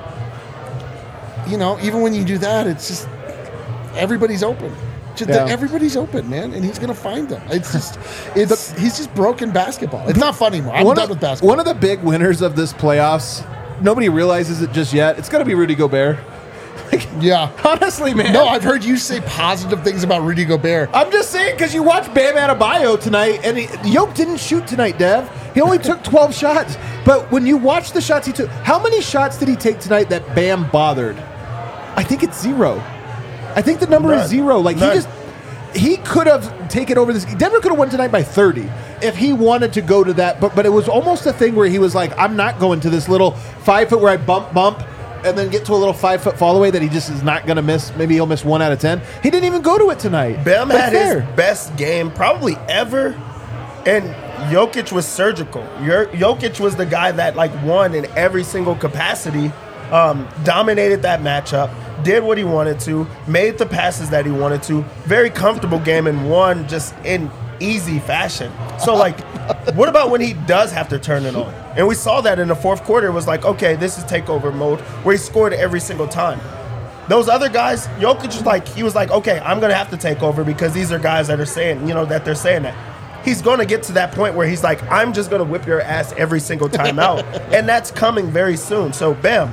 even when you do that, it's just everybody's open. Everybody's open, man, and he's going to find them. He's just broken basketball. It's not fun anymore. I'm done with basketball.
One of the big winners of this playoffs, nobody realizes it just yet. It's going to be Rudy Gobert.
Yeah.
Honestly, man.
No, I've heard you say positive things about Rudy Gobert.
I'm just saying because you watched Bam Adebayo tonight, and Jokic didn't shoot tonight, Dev. He only took 12 shots. But when you watch the shots he took, how many shots did he take tonight that Bam bothered? I think it's 0. I think the number is 0. He could have taken over this. Denver could have won tonight by 30 if he wanted to go to that. But it was almost a thing where he was like, I'm not going to this little 5 foot where I bump, and then get to a little 5 foot fall away that he just is not going to miss. Maybe he'll miss 1 out of 10. He didn't even go to it tonight.
Bam had his best game probably ever, and Jokic was surgical. Jokic was the guy that won in every single capacity, dominated that matchup, did what he wanted to, made the passes that he wanted to. Very comfortable game, and won just in easy fashion. So, like, what about when he does have to turn it on? And we saw that in the fourth quarter. It was like, okay, this is takeover mode, where he scored every single time. Those other guys, Jokic was like, okay, I'm going to have to take over because these are guys that are saying, that they're saying that. He's going to get to that point where he's like, I'm just going to whip your ass every single time out. And that's coming very soon. So, Bam.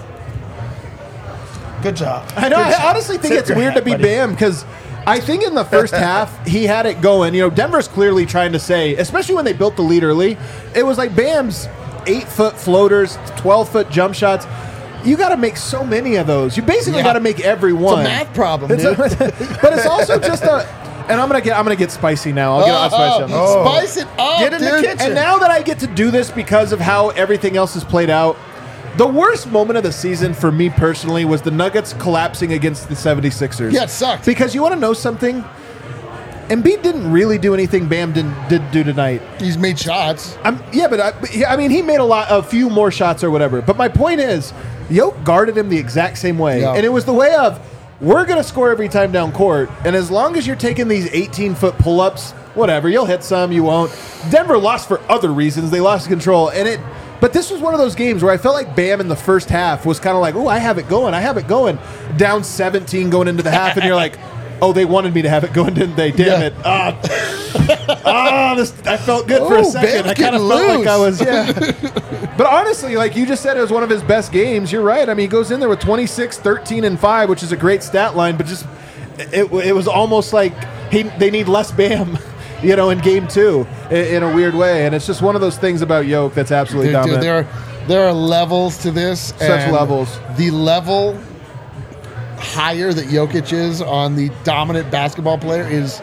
Good job.
I know. I honestly think it's weird to be Bam because I think in the first half, he had it going. Denver's clearly trying to say, especially when they built the lead early, it was like Bam's 8-foot floaters, 12-foot jump shots. You got to make so many of those. You basically got to make every one.
It's a math problem, dude.
But it's also just and I'm gonna get spicy now. I'll get spicy.
Spice it up,
get in the kitchen.
And now that I get to do this because of how everything else is played out, the worst moment of the season for me personally was the Nuggets collapsing against the 76ers.
Yeah, it sucked.
Because you want to know something? Embiid didn't really do anything Bam did do tonight.
He's made shots.
He made a few more shots or whatever. But my point is, Yoke guarded him the exact same way.
Yeah.
And it was the way of, we're going to score every time down court. And as long as you're taking these 18-foot pull-ups, whatever, you'll hit some, you won't. Denver lost for other reasons. They lost control. But this was one of those games where I felt like Bam in the first half was kind of like, I have it going. Down 17 going into the half, and you're like, oh, they wanted me to have it going, didn't they? Damn it. I felt good for a second.
Bam's
I kind of felt like I was, But honestly, like you just said, it was one of his best games. You're right. I mean, he goes in there with 26, 13, and 5, which is a great stat line, but just it was almost like they need less Bam. In game 2 in a weird way. And it's just one of those things about Yoke that's absolutely dominant.
Dude, there are levels to this.
Such levels.
The level higher that Jokic is on the dominant basketball player is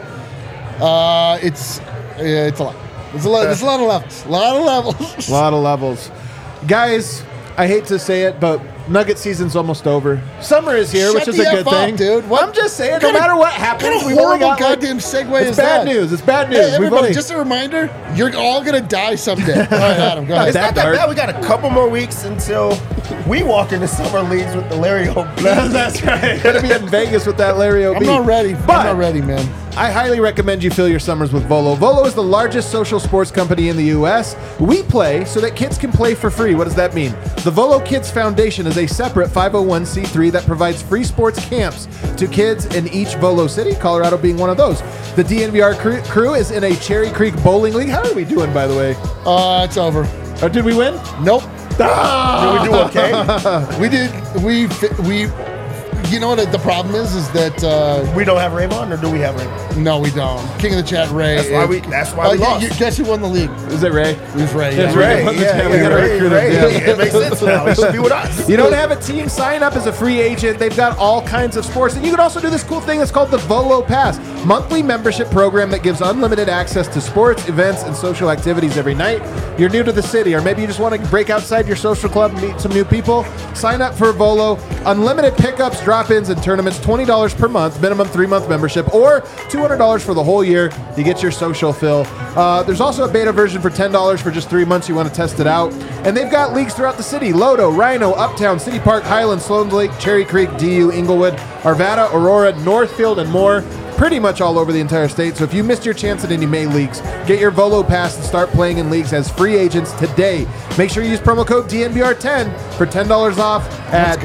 it's a lot. It's a lot of levels. A lot of levels.
Guys, I hate to say it, but Nugget season's almost over. Summer is here, which is a good thing,
dude.
I'm just saying, no matter what happens, we've only got
goddamn segue.
It's bad news. It's bad news.
Hey, everybody, just a reminder: you're all gonna die someday. All right, Adam, go ahead.
It's not that bad. We got a couple more weeks until we walk into summer leagues with the Larry O'B.
That's right. Gonna be in Vegas with that Larry O'B.
I'm not ready. I'm not ready, man.
I highly recommend you fill your summers with Volo. Volo is the largest social sports company in the U.S. We play so that kids can play for free. What does that mean? The Volo Kids Foundation is a separate 501c3 that provides free sports camps to kids in each Volo city, Colorado being one of those. The DNVR crew is in a Cherry Creek Bowling League. How are we doing, by the way?
It's over.
Did we win?
Nope.
Did we do okay?
We did. We. You know what the problem is that
we don't have Raymond, or do we have Raymond?
No, we don't. King of the Chat, Ray.
That's why we lost.
Guess who won the league?
Is it Ray?
It was Ray.
It's Ray.
Ray. It makes sense now. He should be with us.
You don't have a team, sign up as a free agent. They've got all kinds of sports. And you can also do this cool thing that's called the Volo Pass, monthly membership program that gives unlimited access to sports, events, and social activities every night. You're new to the city, or maybe you just want to break outside your social club and meet some new people. Sign up for Volo. Unlimited pickups, drop-ins, and tournaments, $20 per month, minimum 3-month membership, or $200 for the whole year. You get your social fill. There's also a beta version for $10 for just 3 months. You want to test it out. And they've got leagues throughout the city: Lodo, Rhino, Uptown, City Park, Highland, Sloan Lake, Cherry Creek, DU, Inglewood, Arvada, Aurora, Northfield, and more. Pretty much all over the entire state. So if you missed your chance at any May leagues, get your Volo Pass and start playing in leagues as free agents today. Make sure you use promo code DNVR10 for $10 off at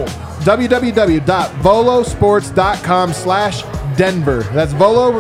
www.volosports.com/Denver. That's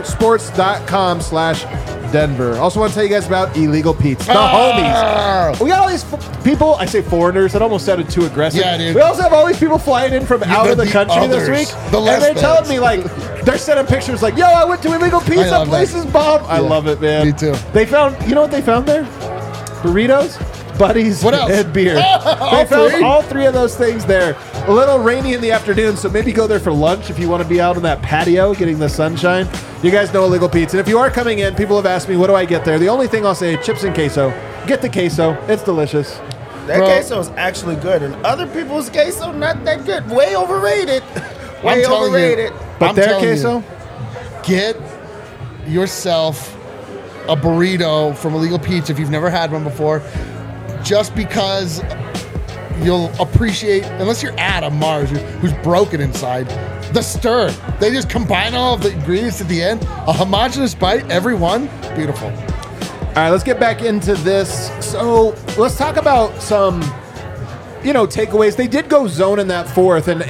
volosports.com/Denver. Also want to tell you guys about Illegal Pete's, the homies. We got all these people, I say foreigners, that almost sounded too aggressive.
Yeah, dude.
We also have all these people flying in from out of the country this week. And they're telling me, like, they're sending pictures like, yo, I went to Illegal Pete's, that place is bomb. I love it, man.
Me too.
They found, you know what they found there? Burritos, buddies,
what else?
And beer. They found all 3 of those things there. A little rainy in the afternoon, so maybe go there for lunch if you want to be out on that patio getting the sunshine. You guys know Illegal Pete's. And if you are coming in, people have asked me, what do I get there? The only thing I'll say, chips and queso. Get the queso. It's delicious.
That queso is actually good, and other people's queso, not that good. Way overrated. Way overrated.
But their queso?
Get yourself a burrito from Illegal Pete's if you've never had one before, just because you'll appreciate, unless you're Adam Mars, who's broken inside, The stir. They just combine all of the ingredients at the end. A homogeneous bite, every one. Beautiful.
All right, let's get back into this. So let's talk about some, takeaways. They did go zone in that fourth, and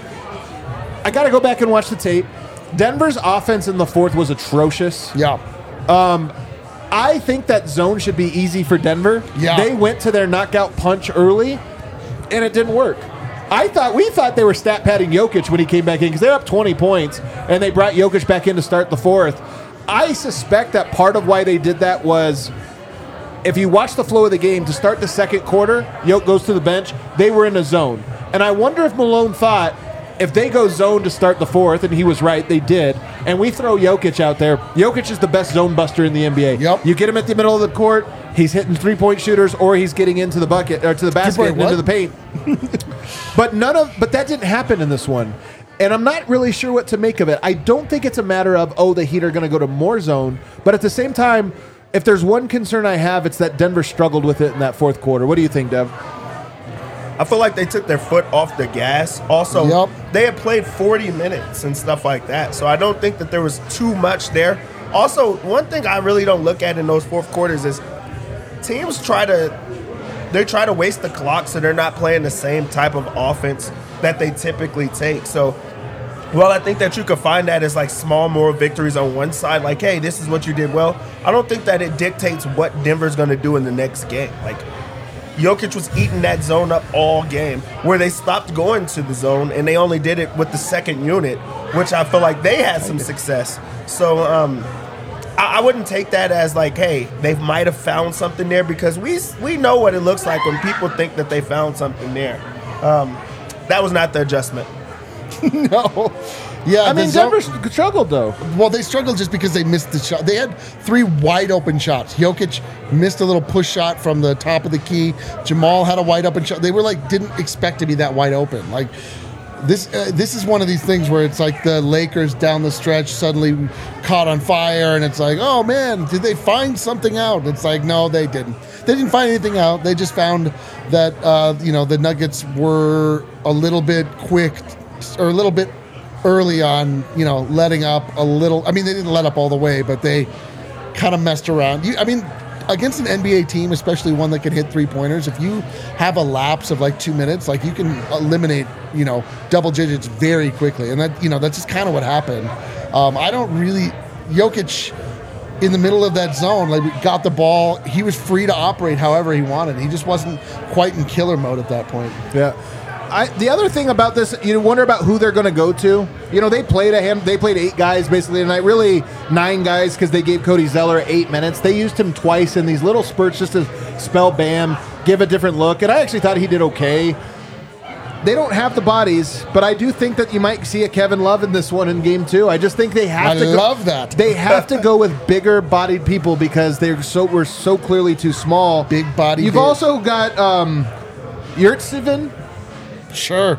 I got to go back and watch the tape. Denver's offense in the fourth was atrocious.
Yeah.
I think that zone should be easy for Denver.
Yeah.
They went to their knockout punch early, and it didn't work. We thought they were stat padding Jokic when he came back in because they're up 20 points, and they brought Jokic back in to start the fourth. I suspect that part of why they did that was, if you watch the flow of the game, to start the second quarter, Jokic goes to the bench, they were in a zone. And I wonder if Malone thought, if they go zone to start the fourth, and he was right, they did, and we throw Jokic out there, Jokic is the best zone buster in the NBA.
Yep.
You get him at the middle of the court, he's hitting three-point shooters, or he's getting into the bucket, or to the basket and into the paint. But that didn't happen in this one. And I'm not really sure what to make of it. I don't think it's a matter of, the Heat are going to go to more zone. But at the same time, if there's one concern I have, it's that Denver struggled with it in that fourth quarter. What do you think, Dev?
I feel like they took their foot off the gas. Also, They had played 40 minutes and stuff like that. So I don't think that there was too much there. Also, one thing I really don't look at in those fourth quarters is teams try to waste the clock, so they're not playing the same type of offense that they typically take. So well, I think that you could find that as like small moral victories on one side, like, hey, this is what you did well. I don't think that it dictates what Denver's going to do in the next game. Like, Jokic was eating that zone up all game, where they stopped going to the zone, and they only did it with the second unit, which I feel like they had some success. So I wouldn't take that as like, hey, they might have found something there, because we know what it looks like when people think that they found something there. That was not the adjustment.
No. Yeah,
I mean, Denver struggled, though.
Well, they struggled just because they missed the shot. They had 3 wide-open shots. Jokic missed a little push shot from the top of the key. Jamal had a wide-open shot. They were like, didn't expect to be that wide open. Like, this is one of these things where it's like the Lakers down the stretch suddenly caught on fire, and it's like, oh, man, did they find something out? It's like, no, they didn't. They didn't find anything out. They just found that, the Nuggets were a little bit quick, or a little bit early on, letting up a little. I mean, they didn't let up all the way, but they kind of messed around. Against an NBA team, especially one that can hit three-pointers, if you have a lapse of like 2 minutes, like you can eliminate, double digits very quickly. And that, that's just kind of what happened. Jokic in the middle of that zone, like, got the ball. He was free to operate however he wanted. He just wasn't quite in killer mode at that point.
Yeah. The other thing about this, you wonder about who they're going to go to. They played 8 guys basically tonight, really 9 guys, because they gave Cody Zeller 8 minutes. They used him twice in these little spurts just to spell Bam, give a different look, and I actually thought he did okay. They don't have the bodies, but I do think that you might see a Kevin Love in this one in game 2. I just think they have to go. I
love that.
They have to go with bigger bodied people because we're so clearly too small.
Big body.
You've also got Yurtseven.
Sure.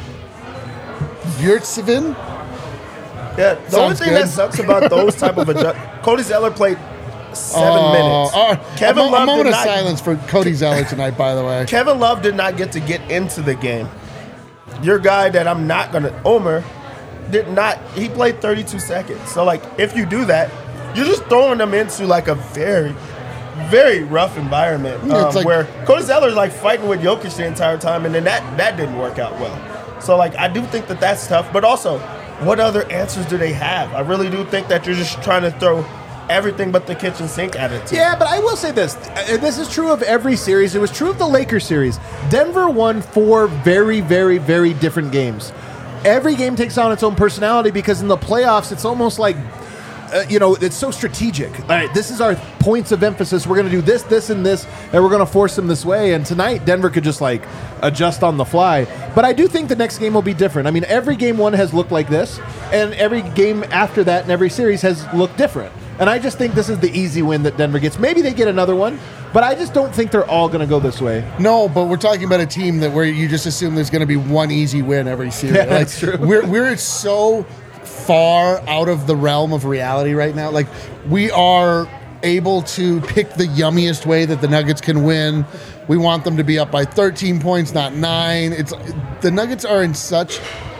Yurtseven?
Yeah, the only thing that sucks about those type of adjustments, Cody Zeller played 7 minutes.
Kevin Love, a moment of silence for Cody Zeller tonight, by the way.
Kevin Love did not get to get into the game. Your guy that I'm not going to, Omer, did not, he played 32 seconds. So, like, if you do that, you're just throwing them into, like, a very, very rough environment where Cody Zeller's like fighting with Jokic the entire time, and then that didn't work out well. So, like, I do think that that's tough. But also, what other answers do they have? I really do think that you're just trying to throw everything but the kitchen sink at it.
Yeah, but I will say this. This is true of every series. It was true of the Lakers series. Denver won 4 very, very, very different games. Every game takes on its own personality because in the playoffs, it's almost like it's so strategic. All right, this is our points of emphasis. We're going to do this, this, and this, and we're going to force them this way. And tonight, Denver could just like adjust on the fly. But I do think the next game will be different. I mean, every game 1 has looked like this, and every game after that in every series has looked different. And I just think this is the easy win that Denver gets. Maybe they get another one, but I just don't think they're all going to go this way.
No, but we're talking about a team where you just assume there's going to be one easy win every series.
Yeah, that's true.
We're so far out of the realm of reality right now. Like, we are able to pick the yummiest way that the Nuggets can win. We want them to be up by 13 points, not 9. The Nuggets are in such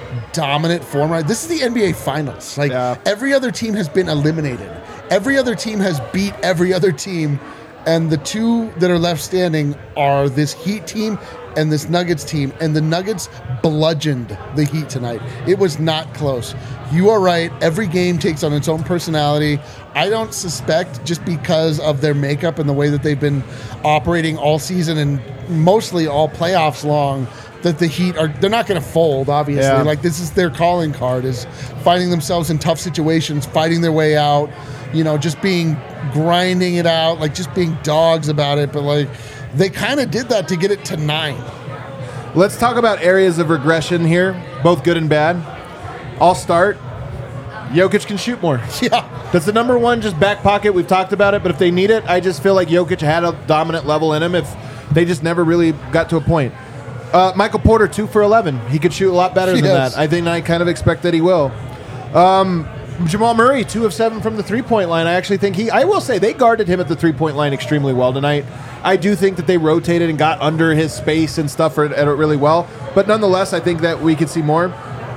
dominant form. Right? This is the NBA Finals. Like every other team has been eliminated. Every other team has beat every other team, and the two that are left standing are this Heat team and this Nuggets team, and the Nuggets bludgeoned the Heat tonight. It was not close. You are right. Every game takes on its own personality. I don't suspect, just because of their makeup and the way that they've been operating all season and mostly all playoffs long, that the Heat they're not going to fold, obviously.
Yeah.
Like, this is their calling card, is finding themselves in tough situations, fighting their way out, just grinding it out, like just being dogs about it. But like, they kind of did that to get it to 9.
Let's talk about areas of regression here, both good and bad. I'll start. Jokic can shoot more.
Yeah.
That's the number one, just back pocket. We've talked about it, but if they need it, I just feel like Jokic had a dominant level in him if they just never really got to a point. Michael Porter, 2 for 11. He could shoot a lot better than that. I think I kind of expect that he will. Jamal Murray, 2 of 7 from the three-point line. I actually think I will say they guarded him at the three-point line extremely well tonight. I do think that they rotated and got under his space and stuff at it really well. But nonetheless, I think that we could see more.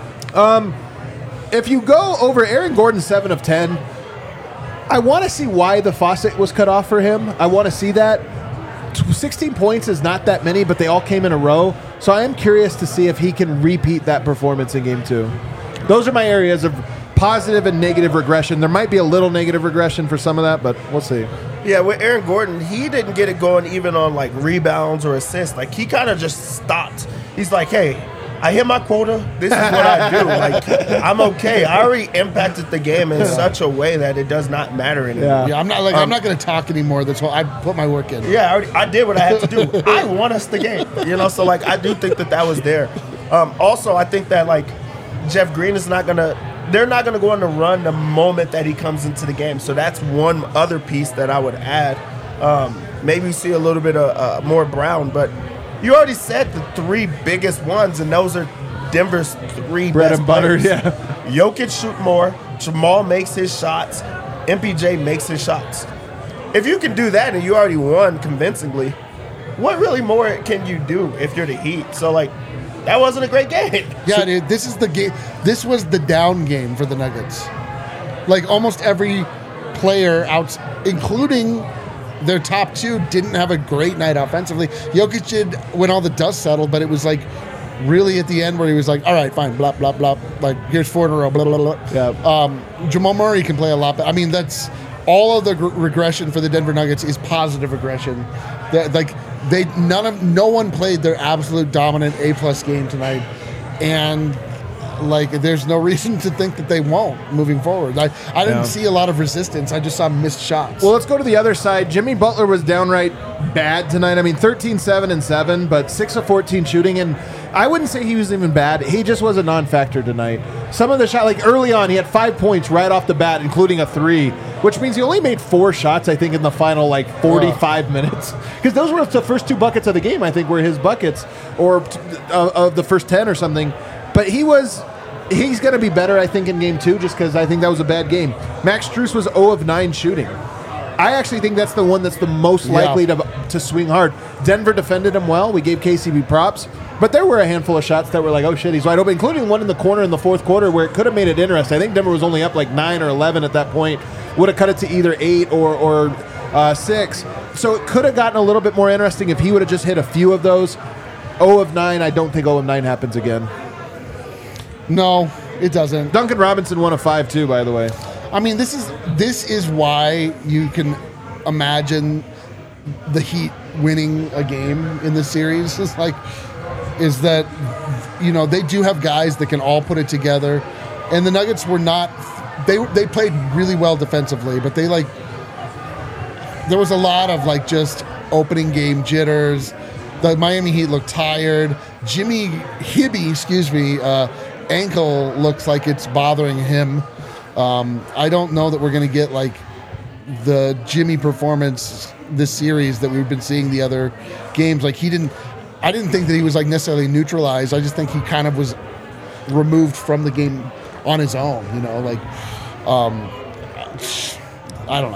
If you go over Aaron Gordon, 7 of 10, I want to see why the faucet was cut off for him. I want to see that. 16 points is not that many, but they all came in a row. So I am curious to see if he can repeat that performance in Game 2. Those are my areas of positive and negative regression. There might be a little negative regression for some of that, but we'll see.
Yeah, with Aaron Gordon, he didn't get it going even on like rebounds or assists. Like, he kind of just stopped. He's like, hey, I hit my quota. This is what I do. Like, I'm okay. I already impacted the game in such a way that it does not matter anymore.
Yeah, I'm not going to talk anymore. That's why I put my work in.
Yeah, I did what I had to do. I won us the game. So like, I do think that was there. Also, I think that like Jeff Green is not going to. They're not going to go on the run the moment that he comes into the game. So that's one other piece that I would add. Maybe see a little bit of more Brown, but you already said the 3 biggest ones, and those are Denver's 3
bread
best
and butter.
players.
Yeah,
Jokic shoot more. Jamal makes his shots. MPJ makes his shots. If you can do that and you already won convincingly, what really more can you do if you're the Heat? So like, that wasn't a great game.
Yeah, dude, this is the game. This was the down game for the Nuggets. Like, almost every player out, including their top 2, didn't have a great night offensively. Jokic did when all the dust settled, but it was like really at the end where he was like, all right, fine, blah, blah, blah. Like, here's 4 in a row, blah, blah, blah.
yeah.
Jamal Murray can play a lot better. I mean, that's all of the regression for the Denver Nuggets is positive regression. No one played their absolute dominant A+ game tonight, and like, there's no reason to think that they won't moving forward. I didn't see a lot of resistance. I just saw missed shots.
Well, let's go to the other side. Jimmy Butler was downright bad tonight. I mean, 13, 7, and 7, but 6 of 14 shooting, and I wouldn't say he was even bad. He just was a non-factor tonight. Some of the shot, like early on, he had 5 points right off the bat, including a 3, which means he only made 4 shots, I think, in the final, 45 minutes. Because those were the first 2 buckets of the game, I think, were his buckets, or of the first 10 or something. But he's going to be better, I think, in Game 2, just because I think that was a bad game. Max Strus was 0 of 9 shooting. I actually think that's the one that's the most likely to swing hard. Denver defended him well. We gave KCP props. But there were a handful of shots that were like, oh, shit, he's wide open, including one in the corner in the fourth quarter where it could have made it interesting. I think Denver was only up like 9 or 11 at that point. Would have cut it to either 8 or 6. So it could have gotten a little bit more interesting if he would have just hit a few of those. 0 of 9, I don't think 0 of 9 happens again.
No, it doesn't.
Duncan Robinson 1 of 5 too, by the way.
I mean, this is why you can imagine the Heat winning a game in this series. Is that they do have guys that can all put it together, and the Nuggets were not. They played really well defensively, but there was a lot of just opening game jitters. The Miami Heat looked tired. Jimmy Hibby, ankle looks like it's bothering him. I don't know that we're going to get the Jimmy performance this series that we've been seeing the other games. I didn't think that he was necessarily neutralized. I just think he kind of was removed from the game on his own. I don't know, man.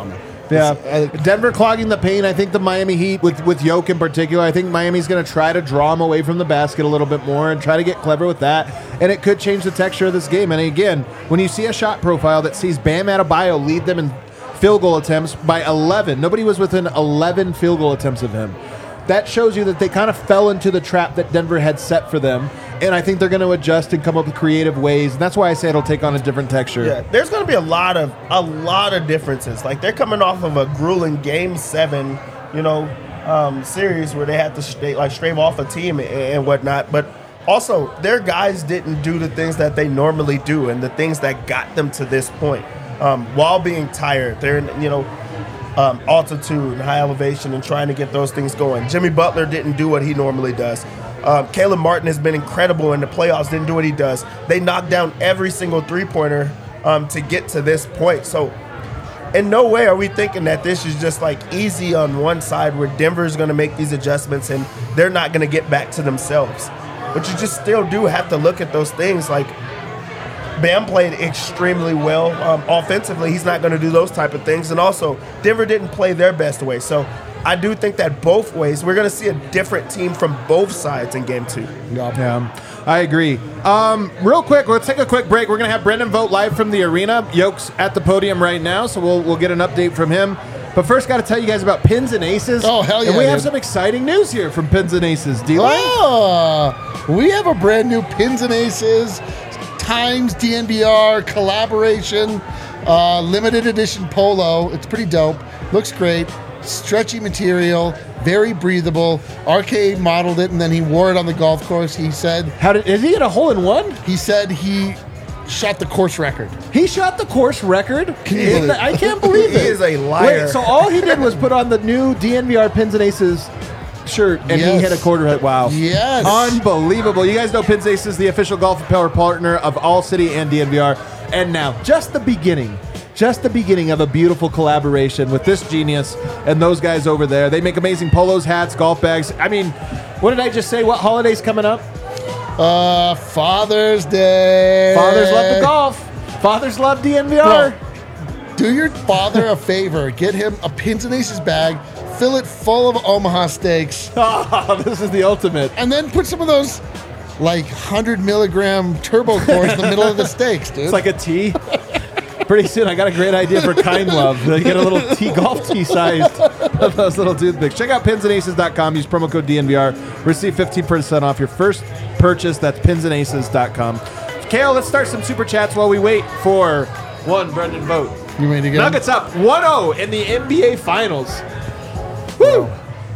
Yeah, Denver clogging the paint. I think the Miami Heat, with Yoke in particular, I think Miami's going to try to draw him away from the basket a little bit more and try to get clever with that. And it could change the texture of this game. And again, when you see a shot profile that sees Bam Adebayo lead them in field goal attempts by 11, nobody was within 11 field goal attempts of him. That shows you that they kind of fell into the trap that Denver had set for them. And I think they're going to adjust and come up with creative ways. And that's why I say it'll take on a different texture.
Yeah, there's going to be a lot of differences. Like, they're coming off of a grueling Game 7, series where they had to strave off a team and whatnot. But also, their guys didn't do the things that they normally do and the things that got them to this point while being tired. They're altitude and high elevation and trying to get those things going. Jimmy Butler didn't do what he normally does. Caleb Martin has been incredible in the playoffs, didn't do what he does. They knocked down every single three-pointer to get to this point. So in no way are we thinking that this is just like easy on one side where Denver's going to make these adjustments and they're not going to get back to themselves. But you just still do have to look at those things. Like, Bam played extremely well. Offensively, he's not going to do those type of things. And also, Denver didn't play their best way. So I do think that both ways, we're going to see a different team from both sides in Game 2.
Yeah, I agree. Real quick, let's take a quick break. We're going to have Brendan vote live from the arena. Yoke's at the podium right now, so we'll get an update from him. But first, got to tell you guys about Pins and Aces.
Oh, hell yeah.
And we have some exciting news here from Pins and Aces. D-Line?
Oh, we have a brand new Pins and Aces Times DNVR collaboration, limited edition polo. It's pretty dope. Looks great. Stretchy material, very breathable. RK modeled it and then he wore it on the golf course. He said,
Is he at a hole-in-one?
He said he shot the course record.
He shot the course record?
Can you believe it?
I can't believe it.
He is a liar.
Wait, so all he did was put on the new DNVR Pins and Aces shirt, and he hit a quarter hit. Wow.
Yes.
Unbelievable. You guys know Pins Aces, the official golf apparel partner of All City and DNVR. And now, just the beginning of a beautiful collaboration with this genius and those guys over there. They make amazing polos, hats, golf bags. I mean, what did I just say? What holiday's coming up?
Father's Day.
Fathers love the golf. Fathers love DNVR.
Bro, do your father a favor. Get him a Pins and Aces bag. Fill it full of Omaha steaks.
Oh, this is the ultimate.
And then put some of those, 100 milligram turbo cores in the middle of the steaks, dude.
It's like a tea. Pretty soon, I got a great idea for Kind Love. They get a little golf tee sized of those little toothpicks. Check out pinsandaces.com. Use promo code DNVR. Receive 15% off your first purchase. That's pinsandaces.com. Kale, let's start some super chats while we wait for one Brendan vote.
You ready to get
Nuggets up 1-0 in the NBA Finals. Woo!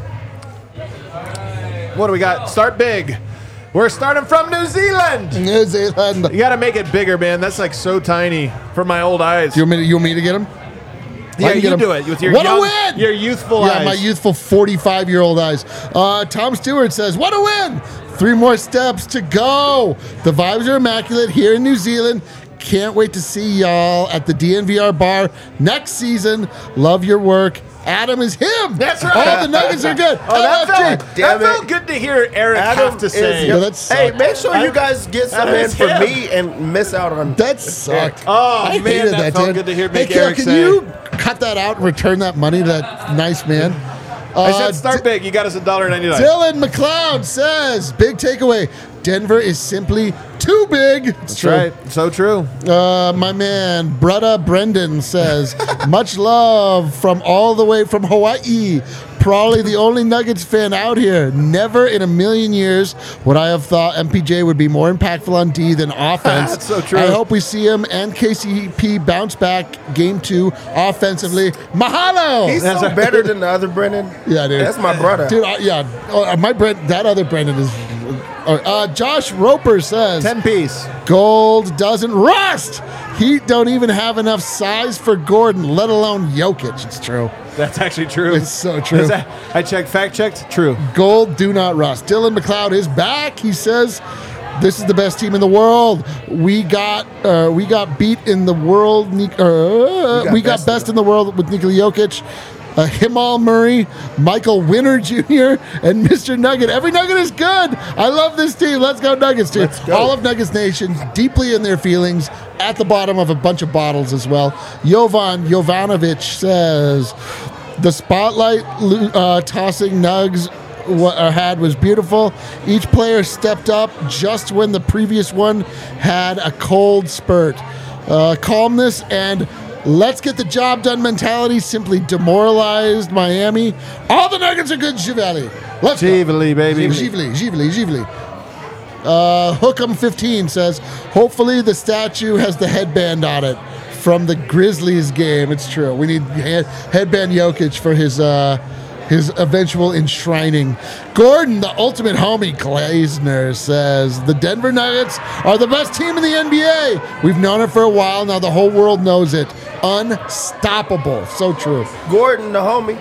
What do we got? Start big. We're starting from New Zealand.
New Zealand.
You got to make it bigger, man. That's so tiny for my old eyes.
You want me to get him?
Yeah, you do it with your your youthful eyes.
Yeah, my youthful 45-year-old eyes. Tom Stewart says, "What a win! 3 more steps to go. The vibes are immaculate here in New Zealand. Can't wait to see y'all at the DNVR bar next season. Love your work. Adam is him.
That's right.
All the Nuggets are good.
That felt good to hear Eric have to say.
Hey, make sure you guys get some in for me and miss out on
that. Sucked.
Oh,
I
man,
hated
that felt good to hear. Make
Kale,
Eric
can
say.
you cut that out and return that money to that nice man?
I said start big. You got us $1.99.
Dylan McLeod says, big takeaway. Denver is simply too big.
That's right. So true.
My man, Brutta Brendan says, much love from all the way from Hawaii. Probably the only Nuggets fan out here. Never in a million years would I have thought MPJ would be more impactful on D than offense.
That's so true.
I hope we see him and KCP bounce back Game 2 offensively. Mahalo!
He's so better than the other Brendan.
Yeah, dude.
That's my brother.
Dude, that other Brendan is... Josh Roper says
10-piece.
Gold doesn't rust. Heat don't even have enough size for Gordon, let alone Jokic. It's true.
That's actually true.
It's so true.
I fact checked. True.
Gold do not rust. Dylan McLeod is back. He says, "This is the best team in the world. We got beat in the world. We got best in the world with Nikola Jokic. Himal Murray, Michael Winner Jr., and Mr. Nugget. Every Nugget is good. I love this team. Let's go Nuggets, dude.
Let's go.
All of Nuggets Nation deeply in their feelings at the bottom of a bunch of bottles as well. Jovan Jovanovic says, the spotlight tossing Nugs had was beautiful. Each player stepped up just when the previous one had a cold spurt. Calmness and let's get the job done mentality simply demoralized Miami. All the Nuggets are good, Givali. Let's
Givali, baby.
Givali. Hookem15 says, hopefully the statue has the headband on it from the Grizzlies game. It's true. We need headband Jokic for his eventual enshrining. Gordon, the ultimate homie, Glazner, says, the Denver Nuggets are the best team in the NBA. We've known it for a while. Now the whole world knows it. Unstoppable. So true.
Gordon, the homie.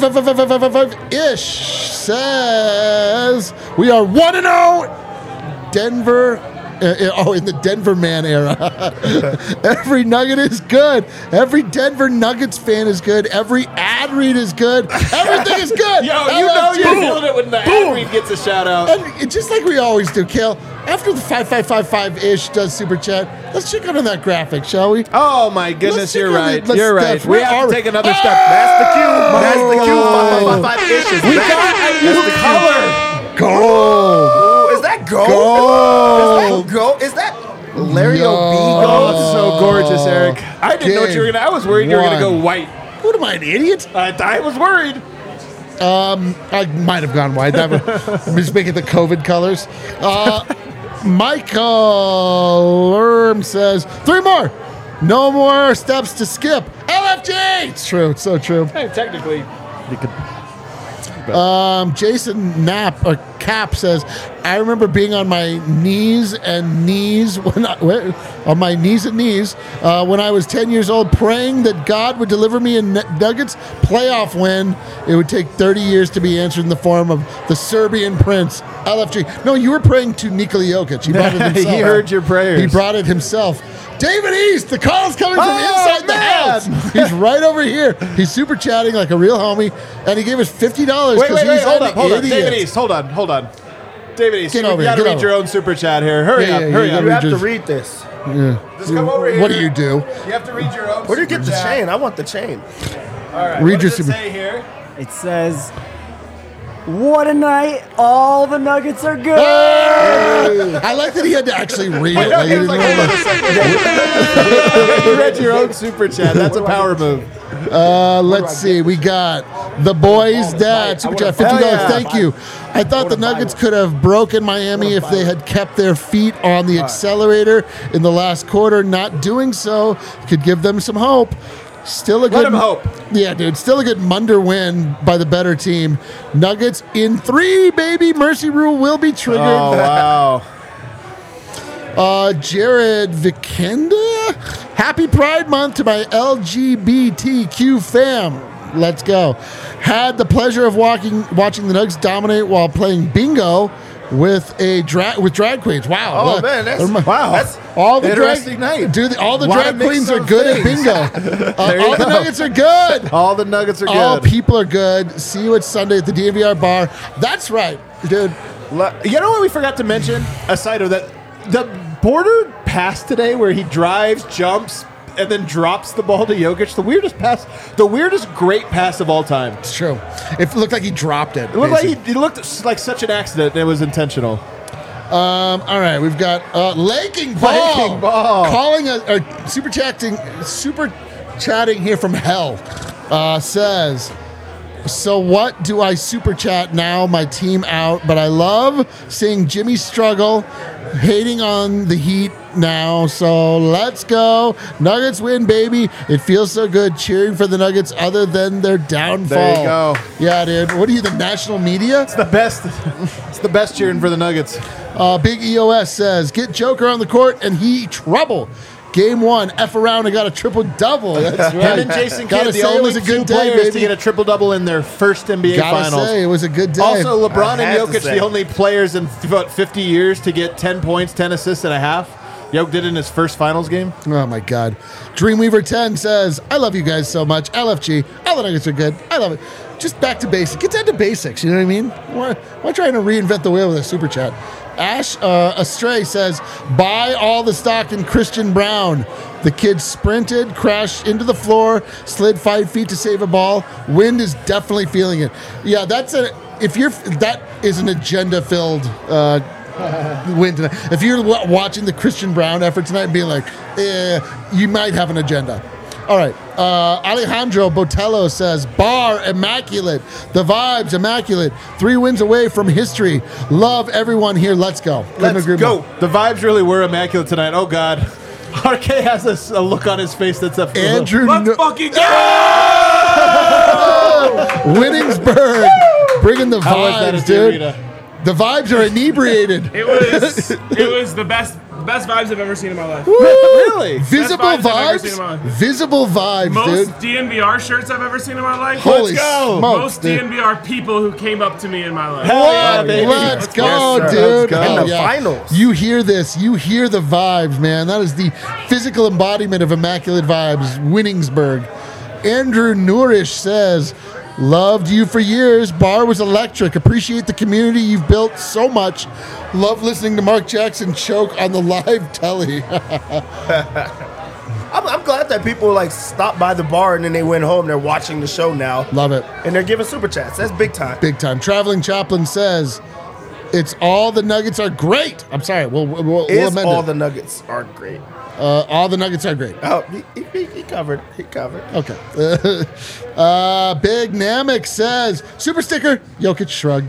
5-ish says, we are 1-0. Denver. In the Denver man era. Every Nugget is good. Every Denver Nuggets fan is good. Every ad read is good. Everything is good.
Yo, you know you're feeling it when the ad read gets a shout out.
And just like we always do, Kale, after the 5555-ish does Super Chat, let's check out on that graphic, shall we?
Oh, my goodness, you're right.
Let's
You're right.
step-
We have to take another step.
That's the cue. That's the cue. 555 issues.
We got a new color.
Gold.
Is that gold?
Gold.
Is that gold? Is that Larry
Yo.
O'B
Oh,
gold?
it's so gorgeous, Eric. I didn't know what you were going to. I was worried you were going to go
One.
white.
What am I, an idiot?
I was worried.
I might have gone white. I'm just making the COVID colors. Michael Lerm says, 3 more. No more steps to skip. LFG! It's true. It's so true.
Hey, technically, you could.
Jason Knapp or Cap says, I remember being on my knees and knees when I was 10 years old, praying that God would deliver me a Nuggets playoff win. It would take 30 years to be answered in the form of the Serbian Prince, LFG. No, you were praying to Nikola Jokic. He brought it himself.
He heard your prayers.
He brought it himself. David East, the call's coming from inside the house. He's right over here. He's super chatting like a real homie, and he gave us $50
Wait,
because he's
hold
an
up.
idiot.
David East, hold on. David East,
Get
you
over
got
here,
to
get
read your
over.
own super chat here. Hurry
Yeah,
up.
yeah,
Hurry
yeah,
up.
You have to
Just-
read this.
Just come over here.
What do you do?
You have to read your own
Where do you get
super
the
chat.
chain? I want the chain.
All right.
Read
what
your
does it
super-
say here?
It says, what a night. All the Nuggets are good.
I like that he had to actually read it. Like, he didn't know.
You read your own super chat. That's a power move.
Let's see. We got the boys' dad super chat, $50.
yeah.
Thank you. I thought the Nuggets could have broken Miami if they had kept their feet on the accelerator in the last quarter. Not doing so could give them some hope. Still a good.
Let him hope.
Yeah, dude. Still a good Munder win by the better team. Nuggets in 3, baby. Mercy rule will be triggered.
Oh, wow.
Jared Vikenda. Happy Pride Month to my LGBTQ fam. Let's go. Had the pleasure of watching the Nuggets dominate while playing bingo with drag queens. Wow.
Oh, man, that's
all the
interesting night.
Dude, all the
Wanna
drag
mix
queens are
those
good
things.
at bingo.
There you
All the
go.
Nuggets are good.
All the Nuggets are
All
good.
people are good. See you at Sunday at the DNVR bar. That's right, dude.
You know what we forgot to mention? Aside of that, the border pass today where he drives, jumps, and then drops the ball to Jokic. The weirdest great pass of all time.
It's true. It looked like he dropped it.
It looked like
basically.
it looked like such an accident. And it was intentional.
All right, we've got Laking Ball, calling super chatting here from hell. Says, so what do I super chat now? My team out, but I love seeing Jimmy struggle, hating on the Heat now. So let's go, Nuggets win, baby! It feels so good cheering for the Nuggets, other than their downfall.
There you go.
Yeah, dude. What are you, the national media?
It's the best. It's the best cheering for the Nuggets.
Big EOS says, get Joker on the court and he trouble. Game 1, F around and got a triple-double. That's right.
Him and Jason
Gotta
Kidd, the
say it
only
was a
two
good day,
players to
baby.
get a triple-double in their first NBA
Gotta
Finals.
say, it was a good day.
Also, LeBron
I
and
had to
Jokic,
say.
the only players in 50 years to get 10 points, 10 assists and a half. Yoke did it in his first finals game.
Oh my God. Dreamweaver 10 says, I love you guys so much. LFG, all the Nuggets are good. I love it. Just back to basics. Get down to basics, you know what I mean? Why trying to reinvent the wheel with a super chat? Ash Astray says, buy all the stock in Christian Brown. The kid sprinted, crashed into the floor, slid 5 feet to save a ball. Wind is definitely feeling it. Yeah, that is an agenda-filled win tonight. If you're watching the Christian Brown effort tonight and being like, you might have an agenda. All right. Alejandro Botello says, bar immaculate. The vibes immaculate. 3 wins away from history. Love everyone here. Let's go.
Let's go.
The vibes really were immaculate tonight. Oh, God. RK has a look on his face that's up.
Andrew.
Let's fucking go!
Winningsburg. Bringing the
How was that
vibes,
at the
dude.
arena?
The vibes are inebriated.
It was the best vibes I've ever seen in my life.
Really?
Visible
Best vibes I've ever seen in
vibes?
my life.
Visible vibes,
Most
dude.
DNVR shirts I've ever seen in my life.
Holy
go.
smokes,
Most
dude.
DNVR people who came up to me in my life.
Hell yeah,
What?
baby.
Let's go,
Yes, sir.
dude.
Let's go.
Hell
In the finals.
You hear this. You hear the vibes, man. That is the physical embodiment of immaculate vibes. Winningsburg. Andrew Nourish says, loved you for years. Bar was electric. Appreciate the community you've built so much. Love listening to Mark Jackson choke on the live telly.
I'm glad that people like stopped by the bar and then they went home. They're watching the show now.
Love it.
And they're giving super chats. That's big time.
Big time. Traveling Chaplain says, it's all the Nuggets are great. I'm sorry. We'll amend
All
it.
the Nuggets are great.
All the Nuggets are great.
Oh, he covered. He covered.
Okay. Big Namek says, super sticker, Jokic shrug.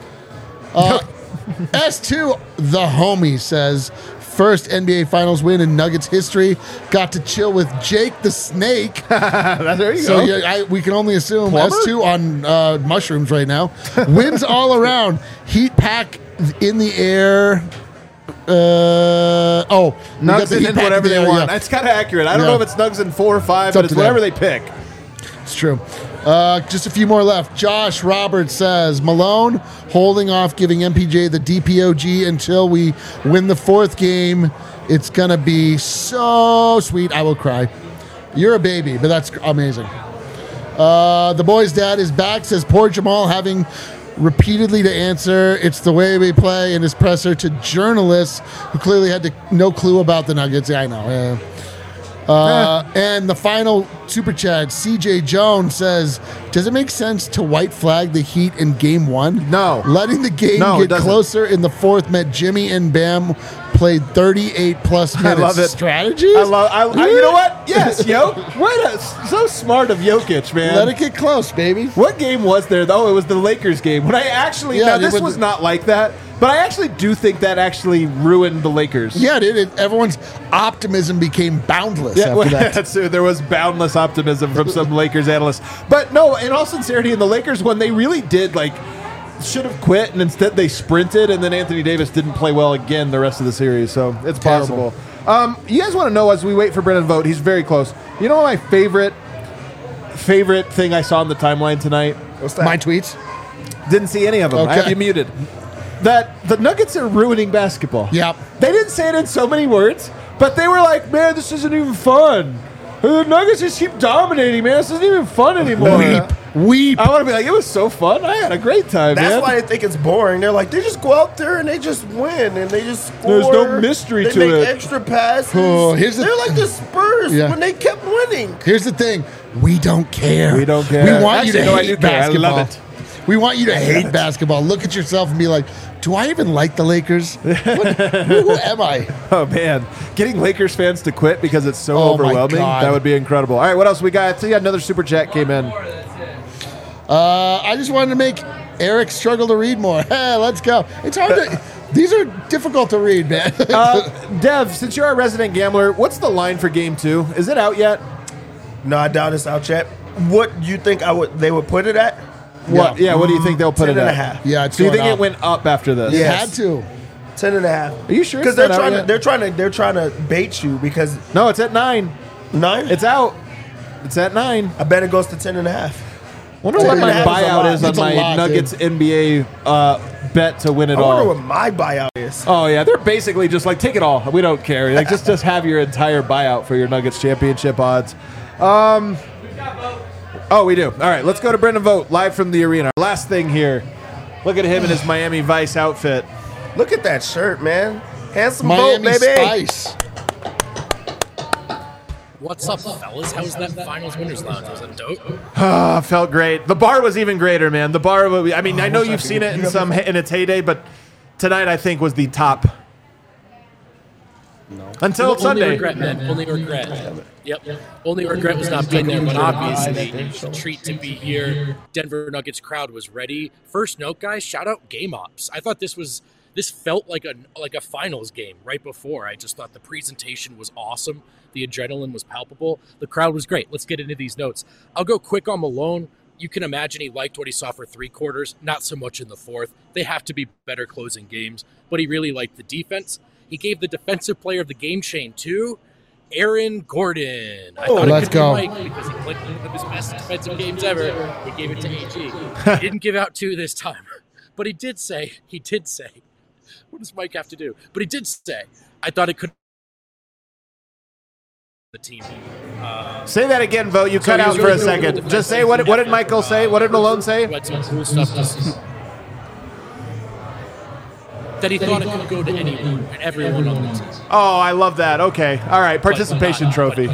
S2, the homie, says, first NBA Finals win in Nuggets history. Got to chill with Jake the Snake.
There you
So
go.
yeah, we can only assume
Plumber?
S2 on mushrooms right now. Wins all around. Heat pack in the air. We got
Nugs
the
in
heat pack
whatever
in the
they
air,
want.
yeah.
That's kind of accurate. I don't
Yeah.
know if it's Nugs in 4 or 5,
It's
but
up
it's
to
whatever
them.
they pick.
It's true. Just a few more left. Josh Roberts says, Malone holding off giving MPJ the DPOG until we win the 4th game. It's going to be so sweet. I will cry. You're a baby, but that's amazing. The boy's dad is back, says poor Jamal having repeatedly to answer it's the way we play in his presser to journalists who clearly had no clue about the Nuggets. Yeah, I know. Yeah. And the final super chat, CJ Jones says, does it make sense to white flag the Heat in game 1?
No.
Letting the game
No, it
get
doesn't.
closer in the 4th meant Jimmy and Bam played 38 plus minutes.
love it.
Strategies?
You know what? Yes, so smart of Jokic, man.
Let it get close, baby.
What game was there, though? It was the Lakers game. When I actually,
Yeah,
now
it
this
was-
was not like that, but I actually do think that actually ruined the Lakers.
Yeah, dude. Everyone's optimism became boundless
Yeah,
after that.
that's there was boundless optimism from some Lakers analysts. But no, in all sincerity, in the Lakers, when they really did, should have quit, and instead they sprinted, and then Anthony Davis didn't play well again the rest of the series, so it's
Terrible.
possible. You guys want to know, as we wait for Brennan vote, he's very close. You know what my favorite thing I saw on the timeline tonight?
What's that?
My tweets?
Didn't see any of them. I
Okay.
have you muted. That the Nuggets are ruining basketball.
Yep.
They didn't say it in so many words, but they were like, man, this isn't even fun. The Nuggets just keep dominating, man. This isn't even fun anymore.
Weep.
I want to be like, it was so fun. I had a great time,
That's
man.
why they think it's boring. They're like, they just go out there and they just win and they just score.
There's no mystery
they
to
make
it.
extra passes.
Oh, here's the-
They're like the Spurs
Yeah.
when they kept winning.
Here's the thing. We don't care.
We don't care.
We want you
Actually,
to
no, I
hate
do care. I love
basketball.
it.
We want you to hate basketball. Look at yourself and be like, do I even like the Lakers? Who am I?
Oh, man. Getting Lakers fans to quit because it's so
Oh, my
overwhelming,
God.
that would be incredible. All right, what else we got? So, yeah, another super chat came in.
I just wanted to make Eric struggle to read more. Hey, let's go. It's hard to. These are difficult to read, man.
Dev, since you're a resident gambler, what's the line for game 2? Is it out yet?
No, I doubt it's out yet. What do you think they would put it at?
What? Yeah, what do you think they'll put
10
it
and
at?
a half.
Yeah, it's
So you
going
think
up.
it went up after this?
You
Yes.
had to.
10 and a half.
Are you sure?
Because
it's
they're
not out
trying
yet?
they're trying to bait you because
No, it's at 9.
9.
It's out. It's at 9.
I bet it goes to 10 and a half.
Wonder what my
That is a
buyout
lot.
is on
That's a
my
lot,
Nuggets NBA bet to win it
I wonder
all.
what my buyout is.
Oh yeah, they're basically just like take it all. We don't care. Like just have your entire buyout for your Nuggets championship odds. Oh, we do. All right, let's go to Brendan Vogt live from the arena. Last thing here. Look at him in his Miami Vice outfit.
Look at that shirt, man. Handsome
Miami
Vogt, baby.
Spice.
What's up, fellas? How was that Finals Winners Lounge? Was it dope?
Felt great. The bar was even greater, man. The bar. I mean, I know you've seen it in its heyday, but tonight I think was the top. No. Until
Only
Sunday.
regret, man. Only regret. Yep. Only regret was not being there, but obviously it was a treat to be here. Denver Nuggets crowd was ready. First note, guys, shout out Game Ops. I thought this felt like a finals game right before. I just thought the presentation was awesome. The adrenaline was palpable. The crowd was great. Let's get into these notes. I'll go quick on Malone. You can imagine he liked what he saw for 3 quarters, not so much in the fourth. They have to be better closing games, but he really liked the defense. He gave the defensive player of the game chain to Aaron Gordon. I thought
let's
it could
go.
be Mike because he played one of his best defensive games ever. He gave it to AG. He didn't give out 2 this time, but he did say, what does Mike have to do? But he did say, I thought it could the team.
Say that again, Vogt. You cut
he
out
was
for a
really good with
second.
the
Just say
defense.
what did Michael say? What did Malone say?
Who had some cool stuff that he thought it could go to anyone and everyone on the team.
Oh, I love that. Okay. All right. Participation trophy.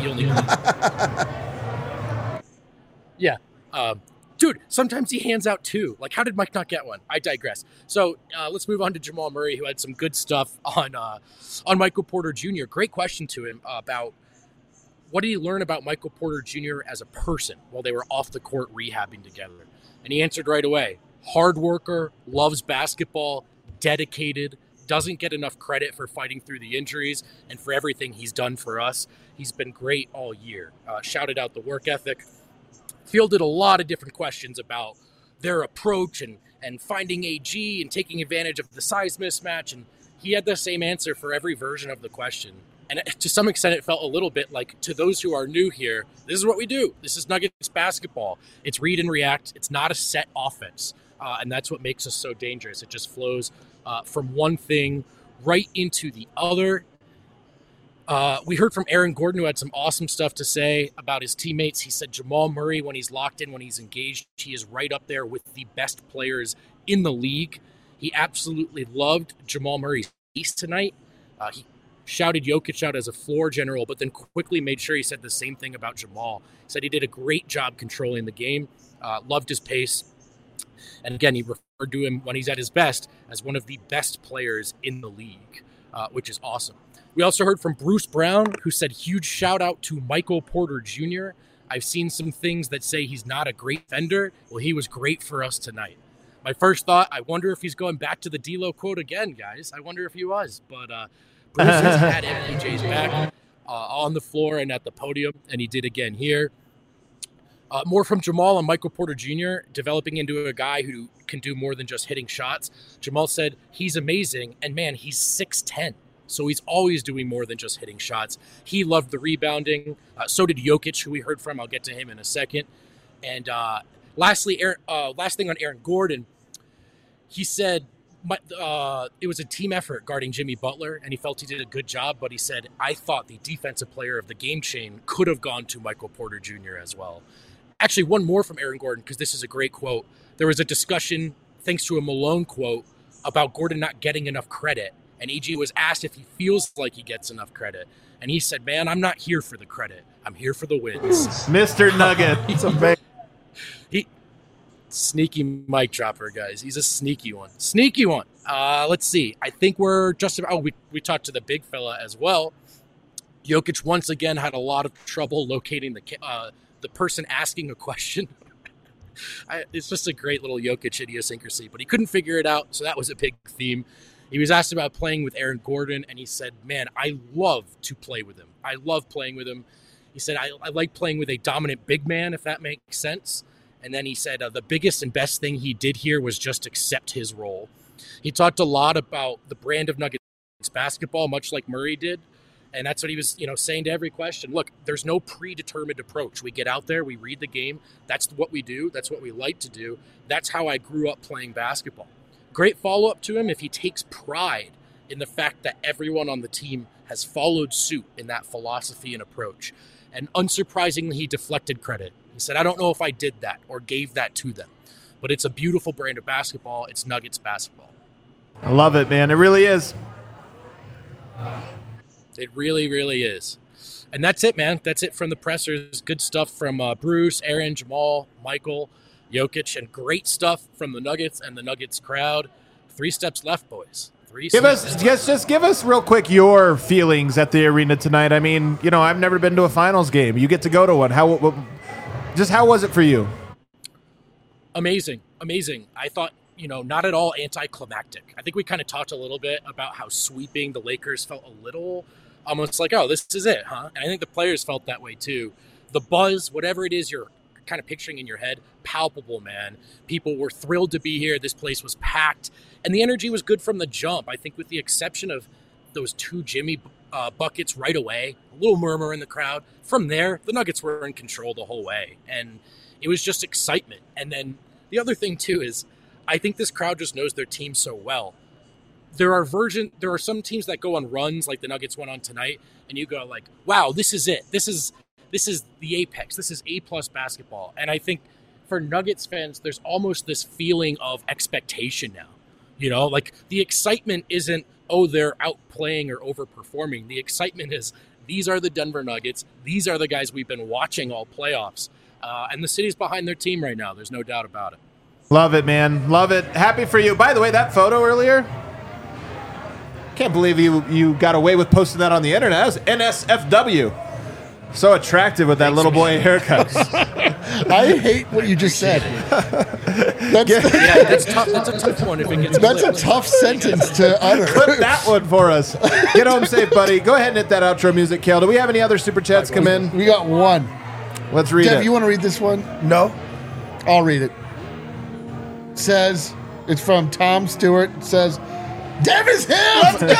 Yeah. Dude, sometimes he hands out 2. Like, how did Mike not get one? I digress. So let's move on to Jamal Murray, who had some good stuff on Michael Porter Jr. Great question to him about what did he learn about Michael Porter Jr. as a person while they were off the court rehabbing together. And he answered right away. Hard worker, loves basketball, dedicated, doesn't get enough credit for fighting through the injuries and for everything he's done for us. He's been great all year. Shouted out the work ethic. Fielded a lot of different questions about their approach and finding AG and taking advantage of the size mismatch. And he had the same answer for every version of the question. And to some extent, it felt a little bit like, to those who are new here, this is what we do. This is Nuggets basketball. It's read and react. It's not a set offense. And that's what makes us so dangerous. It just flows from one thing right into the other. We heard from Aaron Gordon, who had some awesome stuff to say about his teammates. He said Jamal Murray, when he's locked in, when he's engaged, he is right up there with the best players in the league. He absolutely loved Jamal Murray's piece tonight. He shouted Jokic out as a floor general, but then quickly made sure he said the same thing about Jamal. He said he did a great job controlling the game, loved his pace. And again, he referred to him when he's at his best as one of the best players in the league, which is awesome. We also heard from Bruce Brown, who said huge shout out to Michael Porter Jr. I've seen some things that say he's not a great defender. Well, he was great for us tonight. My first thought, I wonder if he's going back to the D'Lo quote again, guys. I wonder if he was. But Bruce has had MPJ's back on the floor and at the podium, and he did again here. More from Jamal and Michael Porter Jr., developing into a guy who can do more than just hitting shots. Jamal said he's amazing, and man, he's 6'10", so he's always doing more than just hitting shots. He loved the rebounding. So did Jokic, who we heard from. I'll get to him in a second. And lastly, last thing on Aaron Gordon, he said it was a team effort guarding Jimmy Butler, and he felt he did a good job, but he said, I thought the defensive player of the game chain could have gone to Michael Porter Jr. as well. Actually, one more from Aaron Gordon, because this is a great quote. There was a discussion, thanks to a Malone quote, about Gordon not getting enough credit. And AG was asked if he feels like he gets enough credit. And he said, man, I'm not here for the credit. I'm here for the wins.
Mr. Nugget.
It's a
Sneaky mic dropper, guys. He's a sneaky one. Sneaky one. Let's see. I think we're just about... Oh, we talked to the big fella as well. Jokic once again had a lot of trouble locating the person asking a question. It's just a great little Jokic idiosyncrasy, but he couldn't figure it out, so that was a big theme. He was asked about playing with Aaron Gordon, and he said, man, I love to play with him. I love playing with him. He said, I like playing with a dominant big man, if that makes sense. And then he said the biggest and best thing he did here was just accept his role. He talked a lot about the brand of Nuggets basketball, much like Murray did. And that's what he was, saying to every question. Look, there's no predetermined approach. We get out there, we read the game. That's what we do. That's what we like to do. That's how I grew up playing basketball. Great follow-up to him if he takes pride in the fact that everyone on the team has followed suit in that philosophy and approach. And unsurprisingly, he deflected credit. He said, I don't know if I did that or gave that to them, but it's a beautiful brand of basketball. It's Nuggets basketball.
I love it, man. It really is.
It really, really is. And that's it, man. That's it from the pressers. Good stuff from Bruce, Aaron, Jamal, Michael, Jokic, and great stuff from the Nuggets and the Nuggets crowd. 3 steps left, boys.
Give us real quick your feelings at the arena tonight. I mean, I've never been to a finals game. You get to go to one. How was it for you?
Amazing. I thought, not at all anticlimactic. I think we kind of talked a little bit about how sweeping the Lakers felt a little almost like, oh, this is it, huh? And I think the players felt that way too. The buzz, whatever it is you're kind of picturing in your head, palpable, man. People were thrilled to be here. This place was packed. And the energy was good from the jump. I think with the exception of those 2 Jimmy buckets right away, a little murmur in the crowd. From there, the Nuggets were in control the whole way. And it was just excitement. And then the other thing too is I think this crowd just knows their team so well. There are some teams that go on runs like the Nuggets went on tonight, and you go like, wow, this is it. This is the apex. This is A+ basketball. And I think for Nuggets fans, there's almost this feeling of expectation now. Like the excitement isn't, oh, they're outplaying or overperforming. The excitement is these are the Denver Nuggets. These are the guys we've been watching all playoffs. And the city's behind their team right now. There's no doubt about it.
Love it, man. Love it. Happy for you. By the way, that photo earlier, can't believe you got away with posting that on the internet. That was NSFW. So attractive with that little boy haircut.
I hate what you just said.
That's tough. That's a tough one. If it gets
That's a tough sentence to utter.
Clip that one for us. Get home safe, buddy. Go ahead and hit that outro music, Kale. Do we have any other super chats come in?
We got one.
Let's read
Dev,
it.
you want to read this one?
No.
I'll read it. It says, it's from Tom Stewart. It says, Dev is him!
Let's go!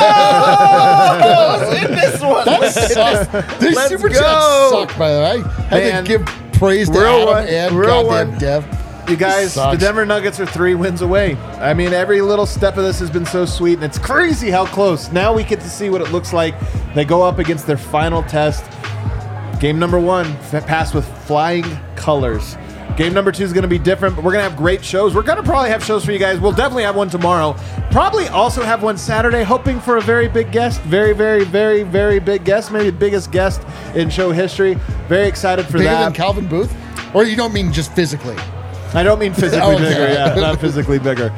Let's hit this one.
That sucks. These
Let's
super
go.
chats suck, by the way. I had to give praise to Adam and goddamn Dev.
You guys, the Denver Nuggets are 3 wins away. I mean, every little step of this has been so sweet, and it's crazy how close. Now we get to see what it looks like. They go up against their final test. Game number 1, passed with flying colors. Game number 2 is going to be different, but we're going to have great shows. We're going to probably have shows for you guys. We'll definitely have one tomorrow. Probably also have one Saturday, hoping for a very big guest. Very, very, very, very big guest. Maybe the biggest guest in show history. Very excited for
Bigger
that.
than Calvin Booth? Or you don't mean just physically?
I don't mean physically bigger, yeah. Not physically bigger.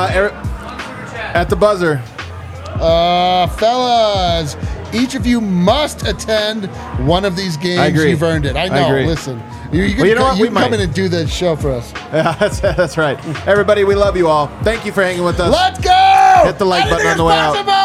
At the buzzer.
Fellas, each of you must attend one of these games.
I agree.
You've earned it. I know.
agree.
Listen. You can come in and do the show for us.
Yeah, that's right. Everybody, we love you all. Thank you for hanging with us.
Let's go!
Hit the like button on the way out.